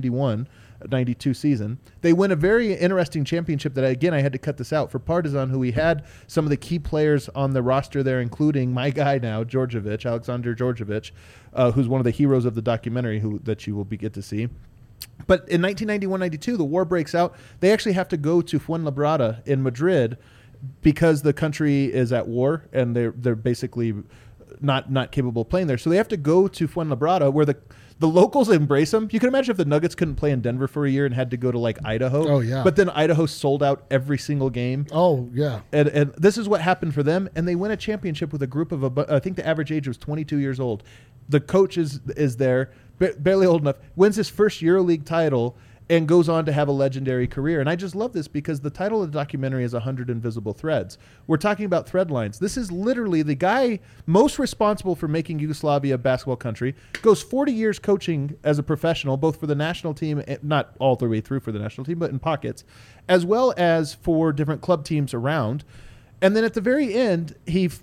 1991-92 season. They win a very interesting championship that, again, I had to cut this out for Partizan, who we had some of the key players on the roster there, including my guy now, Djordjevic, Alexander Djordjevic, who's one of the heroes of the documentary that you will get to see. But in 1991-92, the war breaks out. They actually have to go to Fuenlabrada in Madrid because the country is at war, and they're basically not capable of playing there. So they have to go to Fuenlabrada, where the locals embrace them. You can imagine if the Nuggets couldn't play in Denver for a year and had to go to like Idaho. Oh, yeah. But then Idaho sold out every single game. Oh, yeah. And this is what happened for them. And they win a championship with a group of, I think the average age was 22 years old. The coach is there, barely old enough, wins his first EuroLeague title, and goes on to have a legendary career. And I just love this because the title of the documentary is 100 Invisible Threads. We're talking about thread lines. This is literally the guy most responsible for making Yugoslavia a basketball country, goes 40 years coaching as a professional, both for the national team, not all the way through for the national team, but in pockets, as well as for different club teams around. And then at the very end,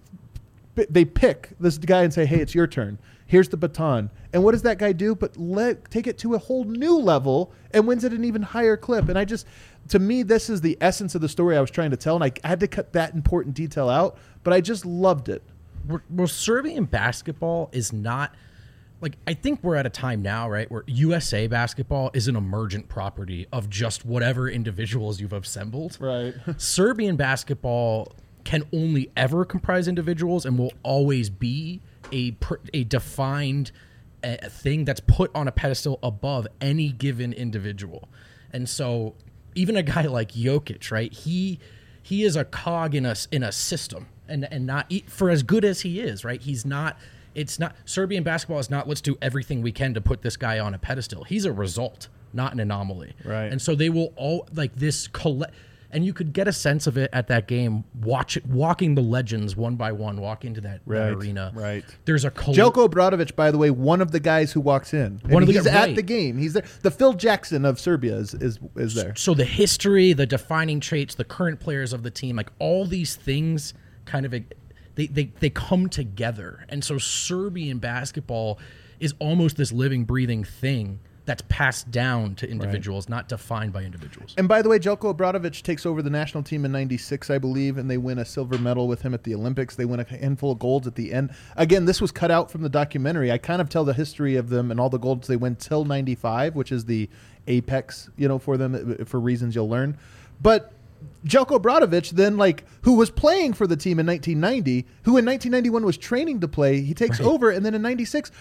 they pick this guy and say, hey, it's your turn. Here's the baton. And what does that guy do? But take it to a whole new level and wins at an even higher clip. And to me, this is the essence of the story I was trying to tell. And I had to cut that important detail out, but I just loved it. Well, Serbian basketball is not, like, I think we're at a time now, right, where USA basketball is an emergent property of just whatever individuals you've assembled. Right. Serbian basketball can only ever comprise individuals and will always be a defined thing that's put on a pedestal above any given individual. And so even a guy like Jokic, right, he is a cog in a system, and not for as good as he is, right, it's not Serbian basketball is not let's do everything we can to put this guy on a pedestal. He's a result, not an anomaly. Right. And so they will all like this And you could get a sense of it at that game, walking the legends one by one, walk into that arena. Right. There's a Jelko Obradović, by the way, one of the guys who walks in. He's at the game. He's there. The Phil Jackson of Serbia is there. So the history, the defining traits, the current players of the team, like all these things kind of they come together. And so Serbian basketball is almost this living, breathing thing that's passed down to individuals, not defined by individuals. And by the way, Jelko Obradović takes over the national team in '96, I believe, and they win a silver medal with him at the Olympics. They win a handful of golds at the end. Again, this was cut out from the documentary. I kind of tell the history of them and all the golds they win till '95, which is the apex, for them, for reasons you'll learn. But Jelko Obradović then, who was playing for the team in 1990, who in 1991 was training to play, he takes over, and then in '96,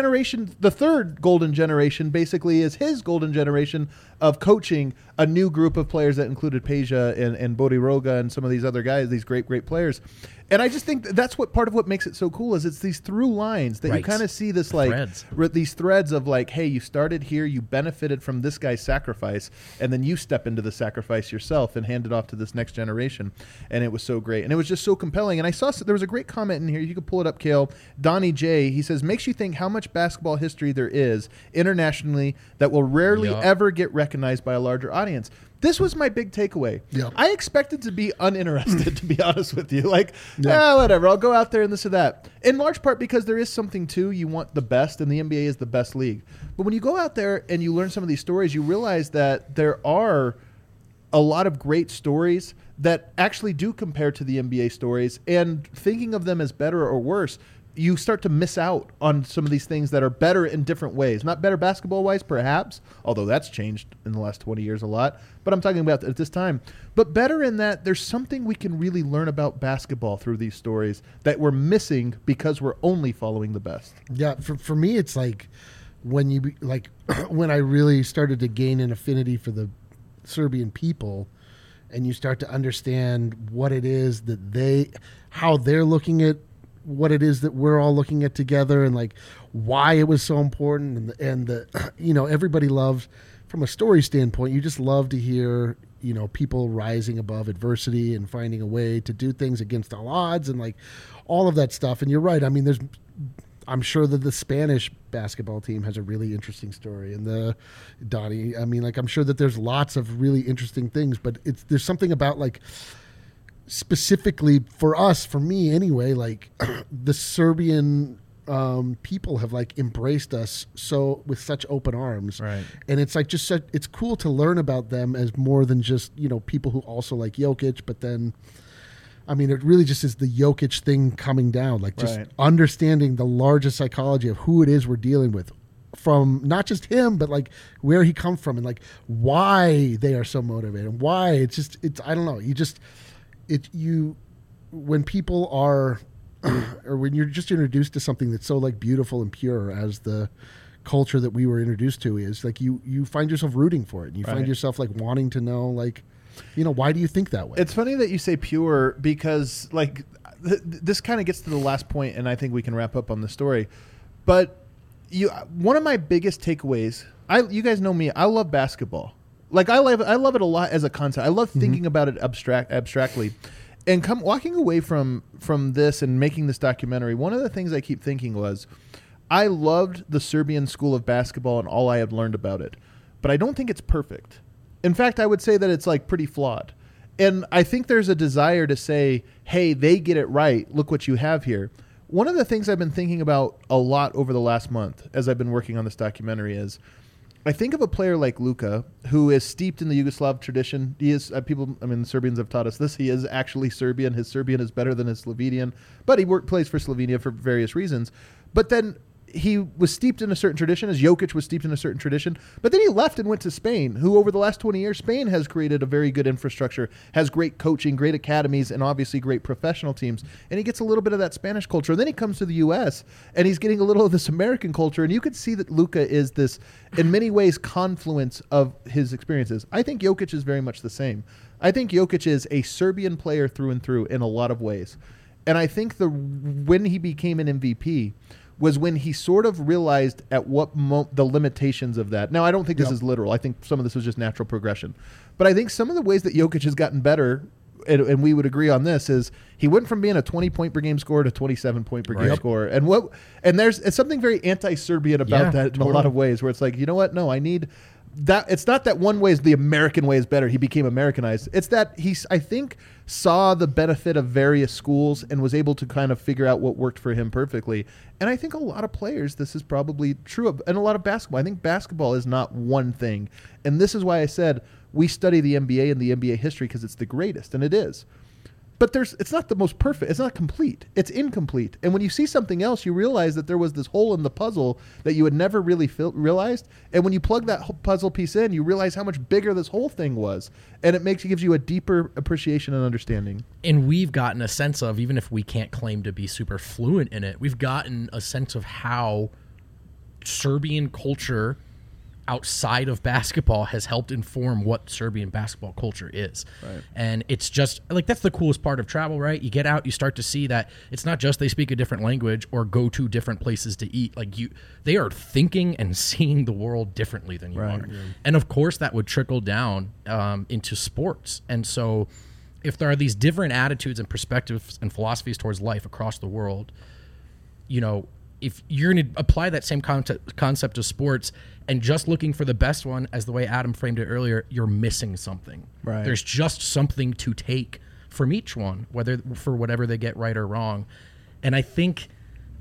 the third golden generation basically is his golden generation of coaching a new group of players that included Peja and Bodiroga and some of these other guys, these great players. And I just think that's part of what makes it so cool is it's these through lines that you kind of see this these threads of hey, you started here, you benefited from this guy's sacrifice, and then you step into the sacrifice yourself and hand it off to this next generation. And it was so great. And it was just so compelling. And I saw there was a great comment in here. You could pull it up, Kale. Donnie J, he says, makes you think how much basketball history there is internationally that will rarely ever get recognized by a larger audience. This was my big takeaway. Yep. I expected to be uninterested, to be honest with you. Whatever, I'll go out there and this or that. In large part because there is something to, you want the best, and the NBA is the best league. But when you go out there and you learn some of these stories, you realize that there are a lot of great stories that actually do compare to the NBA stories, and thinking of them as better or worse, you start to miss out on some of these things that are better in different ways. Not better basketball-wise, perhaps, although that's changed in the last 20 years a lot, but I'm talking about at this time. But better in that there's something we can really learn about basketball through these stories that we're missing because we're only following the best. Yeah, for me, it's when when I really started to gain an affinity for the Serbian people, and you start to understand what it is that how they're looking at what it is that we're all looking at together, and why it was so important, and everybody loves, from a story standpoint, you just love to hear people rising above adversity and finding a way to do things against all odds and all of that stuff. And you're right. I mean, I'm sure that the Spanish basketball team has a really interesting story, and I'm sure that there's lots of really interesting things, but there's something about specifically for me anyway, the Serbian people have embraced us with such open arms, right? And it's it's cool to learn about them as more than just people who also like Jokic, but then it really just is the Jokic thing coming down, understanding the larger psychology of who it is we're dealing with, from not just him, but where he comes from, and why they are so motivated, and why it's I don't know, when people are or when you're just introduced to something that's so beautiful and pure as the culture that we were introduced to is, you find yourself rooting for it, and you find yourself wanting to know why do you think that way? It's funny that you say pure, because this kind of gets to the last point, and I think we can wrap up on the story. But one of my biggest takeaways, you guys know me, I love basketball. I love it a lot as a concept. I love thinking about it abstractly. And walking away from this and making this documentary, one of the things I keep thinking was, I loved the Serbian school of basketball and all I had learned about it, but I don't think it's perfect. In fact, I would say that it's pretty flawed. And I think there's a desire to say, hey, they get it right. Look what you have here. One of the things I've been thinking about a lot over the last month as I've been working on this documentary is, I think of a player like Luka, who is steeped in the Yugoslav tradition. He is the Serbians have taught us this. He is actually Serbian. His Serbian is better than his Slovenian, but he plays for Slovenia for various reasons. But then he was steeped in a certain tradition, as Jokic was steeped in a certain tradition. But then he left and went to Spain, who over the last 20 years, Spain has created a very good infrastructure, has great coaching, great academies, and obviously great professional teams. And he gets a little bit of that Spanish culture. And then he comes to the U.S., and he's getting a little of this American culture. And you could see that Luka is this, in many ways, confluence of his experiences. I think Jokic is very much the same. I think Jokic is a Serbian player through and through in a lot of ways. And I think when he became an MVP, was when he sort of realized at what the limitations of that. Now, I don't think this is literal. I think some of this was just natural progression. But I think some of the ways that Jokic has gotten better, and we would agree on this, is he went from being a 20-point per game scorer to 27-point per game scorer. And it's something very anti-Serbian about that in a lot of ways, where it's like, you know what? No, I need that. It's not that one way is the American way is better. He became Americanized. It's that I think, saw the benefit of various schools and was able to kind of figure out what worked for him perfectly. And I think a lot of players, this is probably true of, and a lot of basketball. I think basketball is not one thing. And this is why I said we study the NBA and the NBA history because it's the greatest, and it is. But it's not the most perfect. It's not complete. It's incomplete. And when you see something else, you realize that there was this hole in the puzzle that you had never really realized. And when you plug that puzzle piece in, you realize how much bigger this whole thing was. And it gives you a deeper appreciation and understanding. And we've gotten a sense of, even if we can't claim to be super fluent in it, we've gotten a sense of how Serbian culture outside of basketball has helped inform what Serbian basketball culture is. Right. And it's just like, that's the coolest part of travel, right? You get out, you start to see that it's not just they speak a different language or go to different places to eat. Like they are thinking and seeing the world differently than you are. Yeah. And of course that would trickle down into sports. And so if there are these different attitudes and perspectives and philosophies towards life across the world, you know, if you're going to apply that same concept to sports and just looking for the best one, as the way Adam framed it earlier, you're missing something. Right. There's just something to take from each one, whether for whatever they get right or wrong. And I think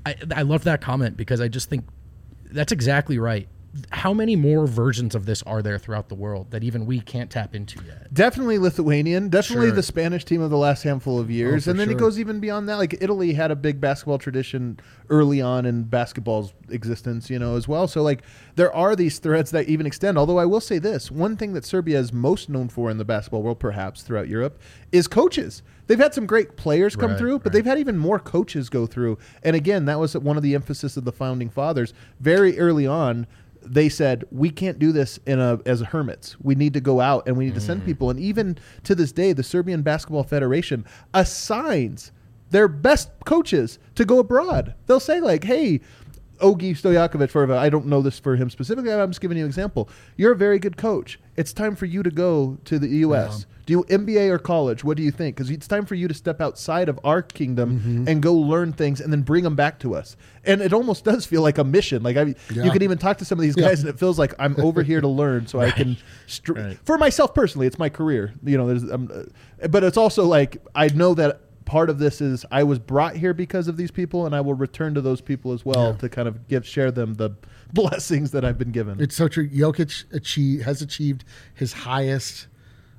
I love that comment because I just think that's exactly right. How many more versions of this are there throughout the world that even we can't tap into yet? Definitely Lithuanian. Definitely the Spanish team of the last handful of years. And then it goes even beyond that. Like Italy had a big basketball tradition early on in basketball's existence, you know, as well. So like there are these threads that even extend. Although I will say this, one thing that Serbia is most known for in the basketball world, perhaps throughout Europe, is coaches. They've had some great players come through, but they've had even more coaches go through. And again, that was one of the emphasis of the founding fathers. Very early on, they said, we can't do this as hermits. We need to go out and we need to send people. And even to this day, the Serbian Basketball Federation assigns their best coaches to go abroad. They'll say like, hey, Ogi Stojakovic, I don't know this for him specifically, I'm just giving you an example. You're a very good coach. It's time for you to go to the U.S. Yeah. Do you MBA or college? What do you think? Because it's time for you to step outside of our kingdom and go learn things and then bring them back to us. And it almost does feel like a mission. Like you can even talk to some of these guys and it feels like I'm over here to learn so I can, for myself personally, it's my career. You know, but it's also like I know that part of this is I was brought here because of these people, and I will return to those people as well to kind of share them the blessings that I've been given. It's so true. Jokic has achieved his highest,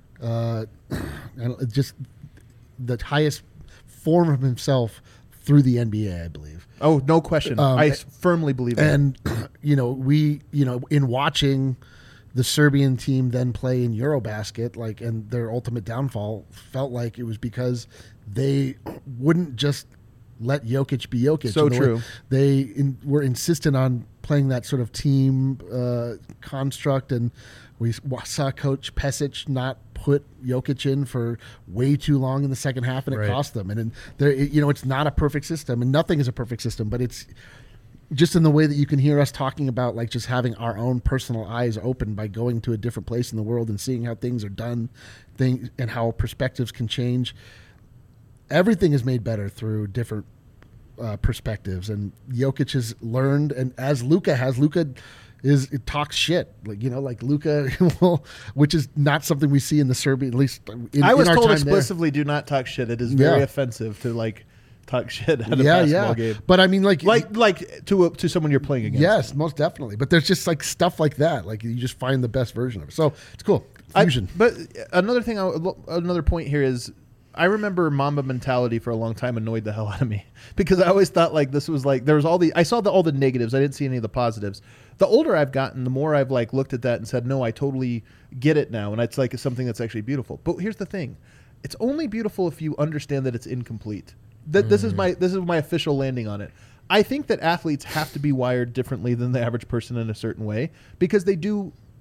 just the highest form of himself through the NBA, I believe. Oh, no question. I firmly believe that. And in watching the Serbian team then play in Eurobasket, and their ultimate downfall felt like it was because they wouldn't just let Jokic be Jokic. So true. They were insistent on playing that sort of team construct, and we saw Coach Pesic not put Jokic in for way too long in the second half, and it cost them. And it's not a perfect system, and nothing is a perfect system, but it's just in the way that you can hear us talking about, like, just having our own personal eyes open by going to a different place in the world and seeing how things are done, and how perspectives can change. Everything is made better through different perspectives, and Jokic has learned, and as Luka talks shit, like Luka, which is not something we see in the Serbian, at least I was told explicitly, do not talk shit. It is very offensive to talk shit at a basketball game. But I mean, like to someone you're playing against. Yes, most definitely. But there's just stuff like that. Like you just find the best version of it. So it's cool. Fusion. But another point here is, I remember Mamba mentality for a long time annoyed the hell out of me because I always thought this was there was I saw all the negatives. I didn't see any of the positives. The older I've gotten, the more I've looked at that and said, no, I totally get it now. And it's something that's actually beautiful. But here's the thing. It's only beautiful if you understand that it's incomplete. This is my official landing on it. I think that athletes have to be wired differently than the average person in a certain way because they do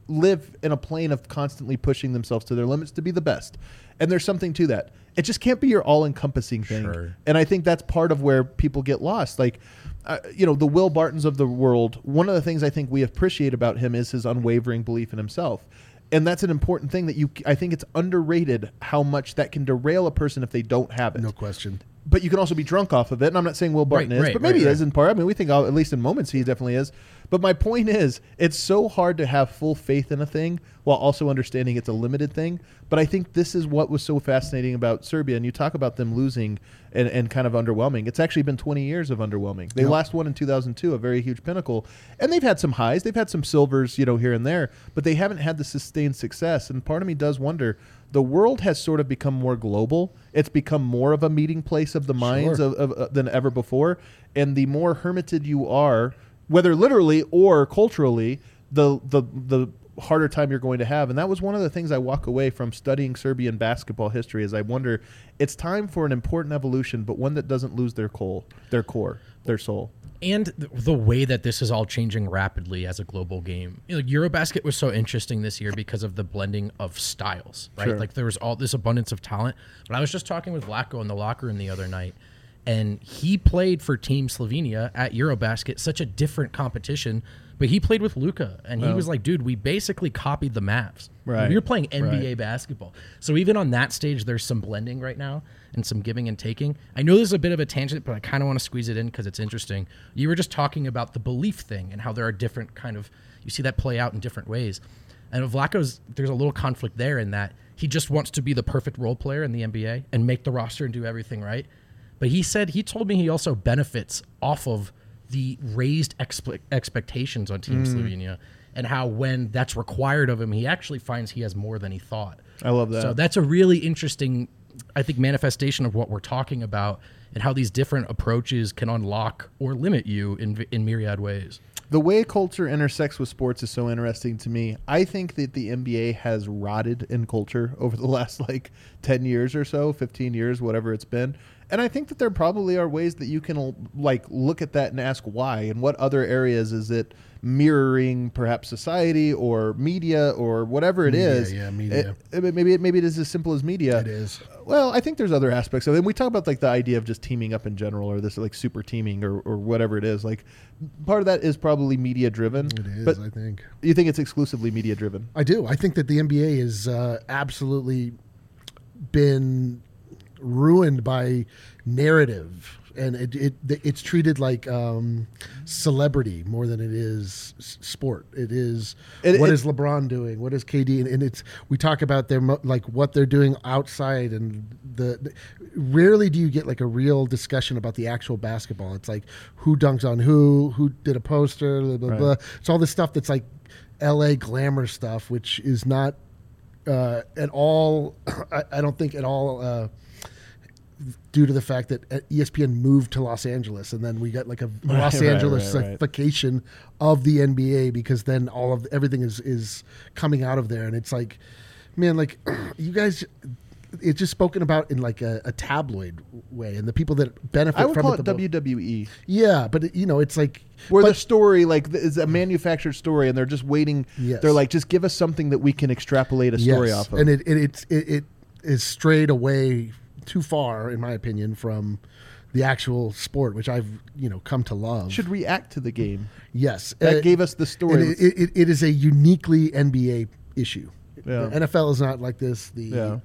live in a plane of constantly pushing themselves to their limits to be the best. And there's something to that. It just can't be your all-encompassing thing. Sure. And I think that's part of where people get lost. Like, the Will Bartons of the world, one of the things I think we appreciate about him is his unwavering belief in himself. And that's an important thing that I think it's underrated how much that can derail a person if they don't have it. No question. But you can also be drunk off of it. And I'm not saying Will Barton is, but maybe he is in part. I mean, we think, at least in moments, he definitely is. But my point is, it's so hard to have full faith in a thing while also understanding it's a limited thing. But I think this is what was so fascinating about Serbia. And you talk about them losing and kind of underwhelming. It's actually been 20 years of underwhelming. They last won in 2002, a very huge pinnacle. And they've had some highs. They've had some silvers, here and there. But they haven't had the sustained success. And part of me does wonder, the world has sort of become more global. It's become more of a meeting place of the minds than ever before. And the more hermited you are, whether literally or culturally, the harder time you're going to have. And that was one of the things I walk away from studying Serbian basketball history is I wonder, it's time for an important evolution, but one that doesn't lose their core, their soul. And the way that this is all changing rapidly as a global game. Eurobasket was so interesting this year because of the blending of styles, right? Sure. Like there was all this abundance of talent. But I was just talking with Vlatko in the locker room the other night, and he played for Team Slovenia at Eurobasket, such a different competition. But he played with Luka, and he was like, dude, we basically copied the Mavs. Right. We were playing NBA basketball. So even on that stage, there's some blending right now and some giving and taking. I know this is a bit of a tangent, but I kind of want to squeeze it in because it's interesting. You were just talking about the belief thing and how there are different you see that play out in different ways. And Vlatko's, there's a little conflict there in that he just wants to be the perfect role player in the NBA and make the roster and do everything right. But he told me he also benefits off of the raised expectations on Team Slovenia and how when that's required of him, he actually finds he has more than he thought. I love that. So that's a really interesting, I think, manifestation of what we're talking about and how these different approaches can unlock or limit you in myriad ways. The way culture intersects with sports is so interesting to me. I think that the NBA has rotted in culture over the last 10 years or so, 15 years, whatever it's been. And I think that there probably are ways that you can look at that and ask why, and what other areas is it mirroring perhaps society or media or whatever it is. Yeah, media. Maybe it is as simple as media. It is. Well, I think there's other aspects of it. And we talk about the idea of just teaming up in general or this super teaming or whatever it is. Part of that is probably media driven. It is, but I think. You think it's exclusively media driven? I do. I think that the NBA has absolutely been ruined by narrative, and it's treated like celebrity more than it is sport. It is what is LeBron doing? What is KD? And we talk about their what they're doing outside, and rarely do you get a real discussion about the actual basketball. It's who dunks on who did a poster, blah, blah, blah. It's all this stuff that's LA glamour stuff, which is not at all. I don't think at all. Due to the fact that ESPN moved to Los Angeles, and then we got a Los Angeles-ification of the NBA, because then everything is coming out of there, and it's man, you guys, it's just spoken about in a tabloid way, and the people that benefit from it. I would call it WWE. Yeah, but it's where the story is a manufactured story, and they're just waiting. Yes. They're just give us something that we can extrapolate a story off of. And it is strayed away too far, in my opinion, from the actual sport, which I've come to love. Should react to the game. Yes, that gave us the story. It is a uniquely NBA issue. Yeah. The NFL is not like this. The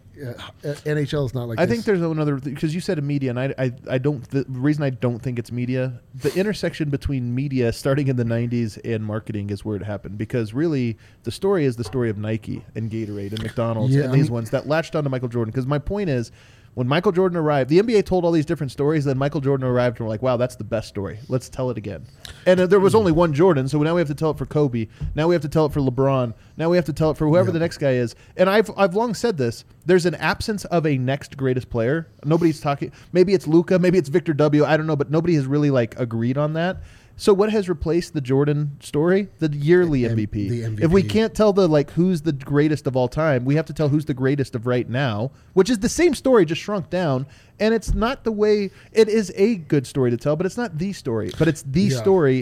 NHL is not like this. I think there's another, because you said media, and I don't. The reason I don't think it's media, the intersection between media starting in the 90s and marketing is where it happened. Because really, the story is the story of Nike and Gatorade and McDonald's and these ones that latched onto Michael Jordan. Because my point is, when Michael Jordan arrived, the NBA told all these different stories. Then Michael Jordan arrived, and we're like, wow, that's the best story. Let's tell it again. And there was only one Jordan, so now we have to tell it for Kobe. Now we have to tell it for LeBron. Now we have to tell it for whoever the next guy is. And I've long said this. There's an absence of a next greatest player. Nobody's talking. Maybe it's Luka. Maybe it's Victor W. I don't know, but nobody has really agreed on that. So what has replaced the Jordan story? The yearly MVP. The MVP. If we can't tell who's the greatest of all time, we have to tell who's the greatest of right now, which is the same story, just shrunk down. And it's not the way, it is a good story to tell, but it's not the story. But it's the story.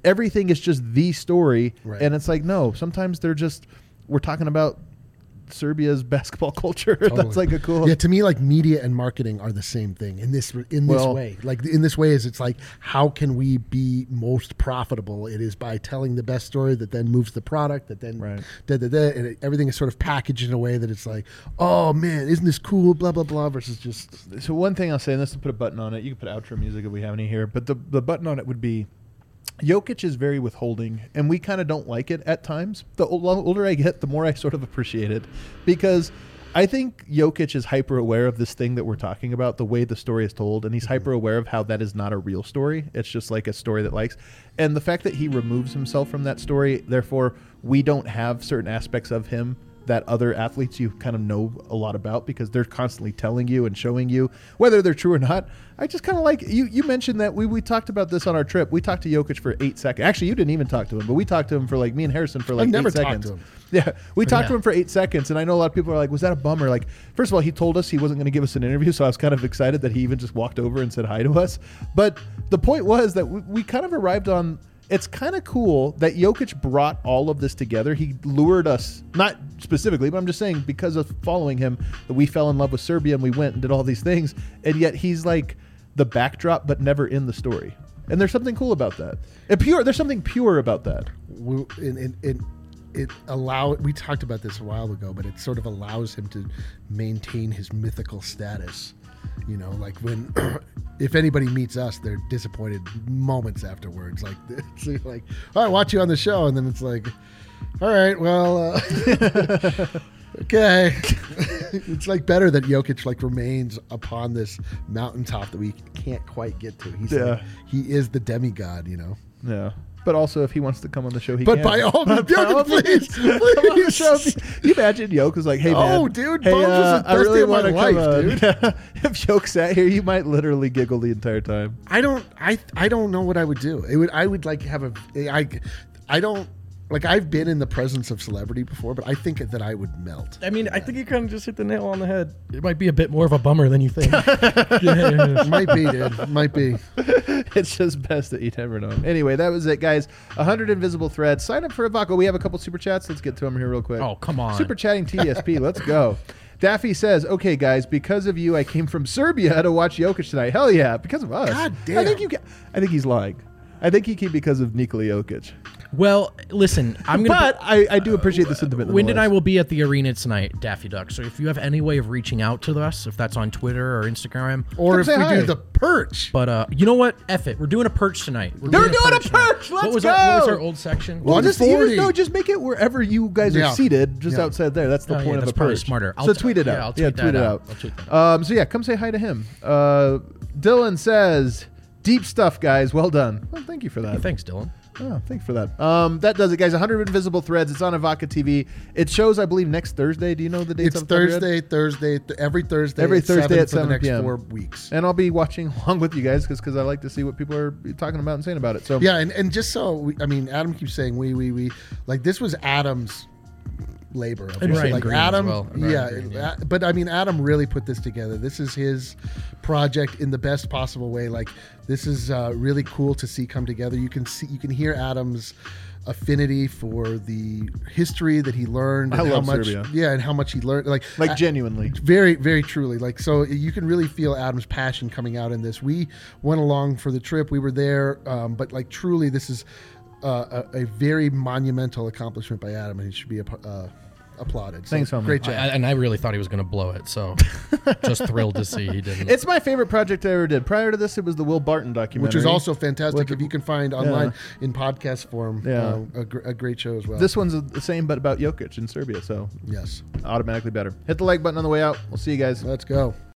everything is just the story. Right. And it's like, no, sometimes we're talking about Serbia's basketball culture. Totally. That's like a cool. Yeah, to me, like media and marketing are the same thing in this way. Like in this way, it's like how can we be most profitable? It is by telling the best story that then moves the product, that then and everything is sort of packaged in a way that it's like, oh man, isn't this cool? Blah blah blah. Versus just. So one thing I'll say, and this will put a button on it. You can put outro music if we have any here, but the button on it would be. Jokic is very withholding, and we kind of don't like it at times. The older I get, the more I sort of appreciate it, because I think Jokic is hyper aware of this thing that we're talking about, the way the story is told, and he's hyper aware of how that is not a real story. It's just like a story that likes. And the fact that he removes himself from that story, therefore, we don't have certain aspects of him that other athletes you kind of know a lot about because they're constantly telling you and showing you whether they're true or not. I just kind of like you mentioned that we talked about this on our trip. We talked to Jokic for 8 seconds. Actually, you didn't even talk to him, but we talked to him for like me and Harrison for like 8 seconds. To him. Yeah, we talked to him for 8 seconds, and I know a lot of people are like, was that a bummer? Like, first of all, he told us he wasn't going to give us an interview, so I was kind of excited that he even just walked over and said hi to us. But the point was that we kind of arrived on, it's kind of cool that Jokic brought all of this together. He lured us, not specifically, but I'm just saying because of following him, that we fell in love with Serbia and we went and did all these things. And yet he's like the backdrop, but never in the story. And there's something cool about that. There's something pure about that. We talked about this a while ago, but it sort of allows him to maintain his mythical status. You know, like when if anybody meets us, they're disappointed moments afterwards. Like it's like, oh, I watch you on the show, and then it's like, all right, well, okay. It's like better that Jokic like remains upon this mountaintop that we can't quite get to. He's like, he is the demigod, you know. Yeah. But also, if he wants to come on the show, he but can. By all means, please. Come on the show. You imagine Yoke was like, "Hey man, oh dude, hey, Bones was the I best really day of my want to life, come dude." If Yoke sat here, you might literally giggle the entire time. I don't know what I would do. I would like have I don't. Like, I've been in the presence of celebrity before, but I think that I would melt. I mean, I think you kind of just hit the nail on the head. It might be a bit more of a bummer than you think. Might be, dude. Might be. It's just best that you never know. Anyway, that was it, guys. 100 invisible threads. Sign up for Avaco. We have a couple super chats. Let's get to them here real quick. Oh, come on. Super chatting TSP. Let's go. Daffy says, okay, guys, because of you, I came from Serbia to watch Jokic tonight. Hell yeah, because of us. God damn. I think he's lying. I think he came because of Nikola Jokic. Well, listen, I'm going to... But I do appreciate the sentiment. Wyndon and I will be at the arena tonight, Daffy Duck. So if you have any way of reaching out to us, if that's on Twitter or Instagram... Or if we do the perch. But you know what? F it. We're doing a perch tonight. They're doing a perch! Let's go! What was our old section? Well, just make it wherever you guys are seated, just outside there. That's the point of a perch. Smarter. So tweet it out. I'll tweet it out. So yeah, come say hi to him. Dylan says, deep stuff, guys. Well done. Well, thank you for that. Thanks, Dylan. Oh, thanks for that. That does it, guys. 100 Invisible Threads. It's on Avaca TV. It shows, I believe, next Thursday. Do you know the dates? It's Thursday, every Thursday at 7 for the next p.m. 4 weeks. And I'll be watching along with you guys because I like to see what people are talking about and saying about it. So yeah, and just so Adam keeps saying we like this was Adam's labor. And Ryan like Green Adam, as well. Yeah. But I mean, Adam really put this together. This is his project in the best possible way. Like this is really cool to see come together. You can hear Adam's affinity for the history that he learned. I love how much, Serbia. Yeah, and how much he learned. Like genuinely, very, very truly. Like so, you can really feel Adam's passion coming out in this. We went along for the trip. We were there, but like truly, this is. A very monumental accomplishment by Adam, and he should be applauded. So, thanks, homie. Great job. And I really thought he was going to blow it, so just thrilled to see he didn't. It's my favorite project I ever did. Prior to this, it was the Will Barton documentary, which is also fantastic. If you can find online in podcast form, a great show as well. This one's the same, but about Jokic in Serbia, so yes, automatically better. Hit the like button on the way out. We'll see you guys. Let's go.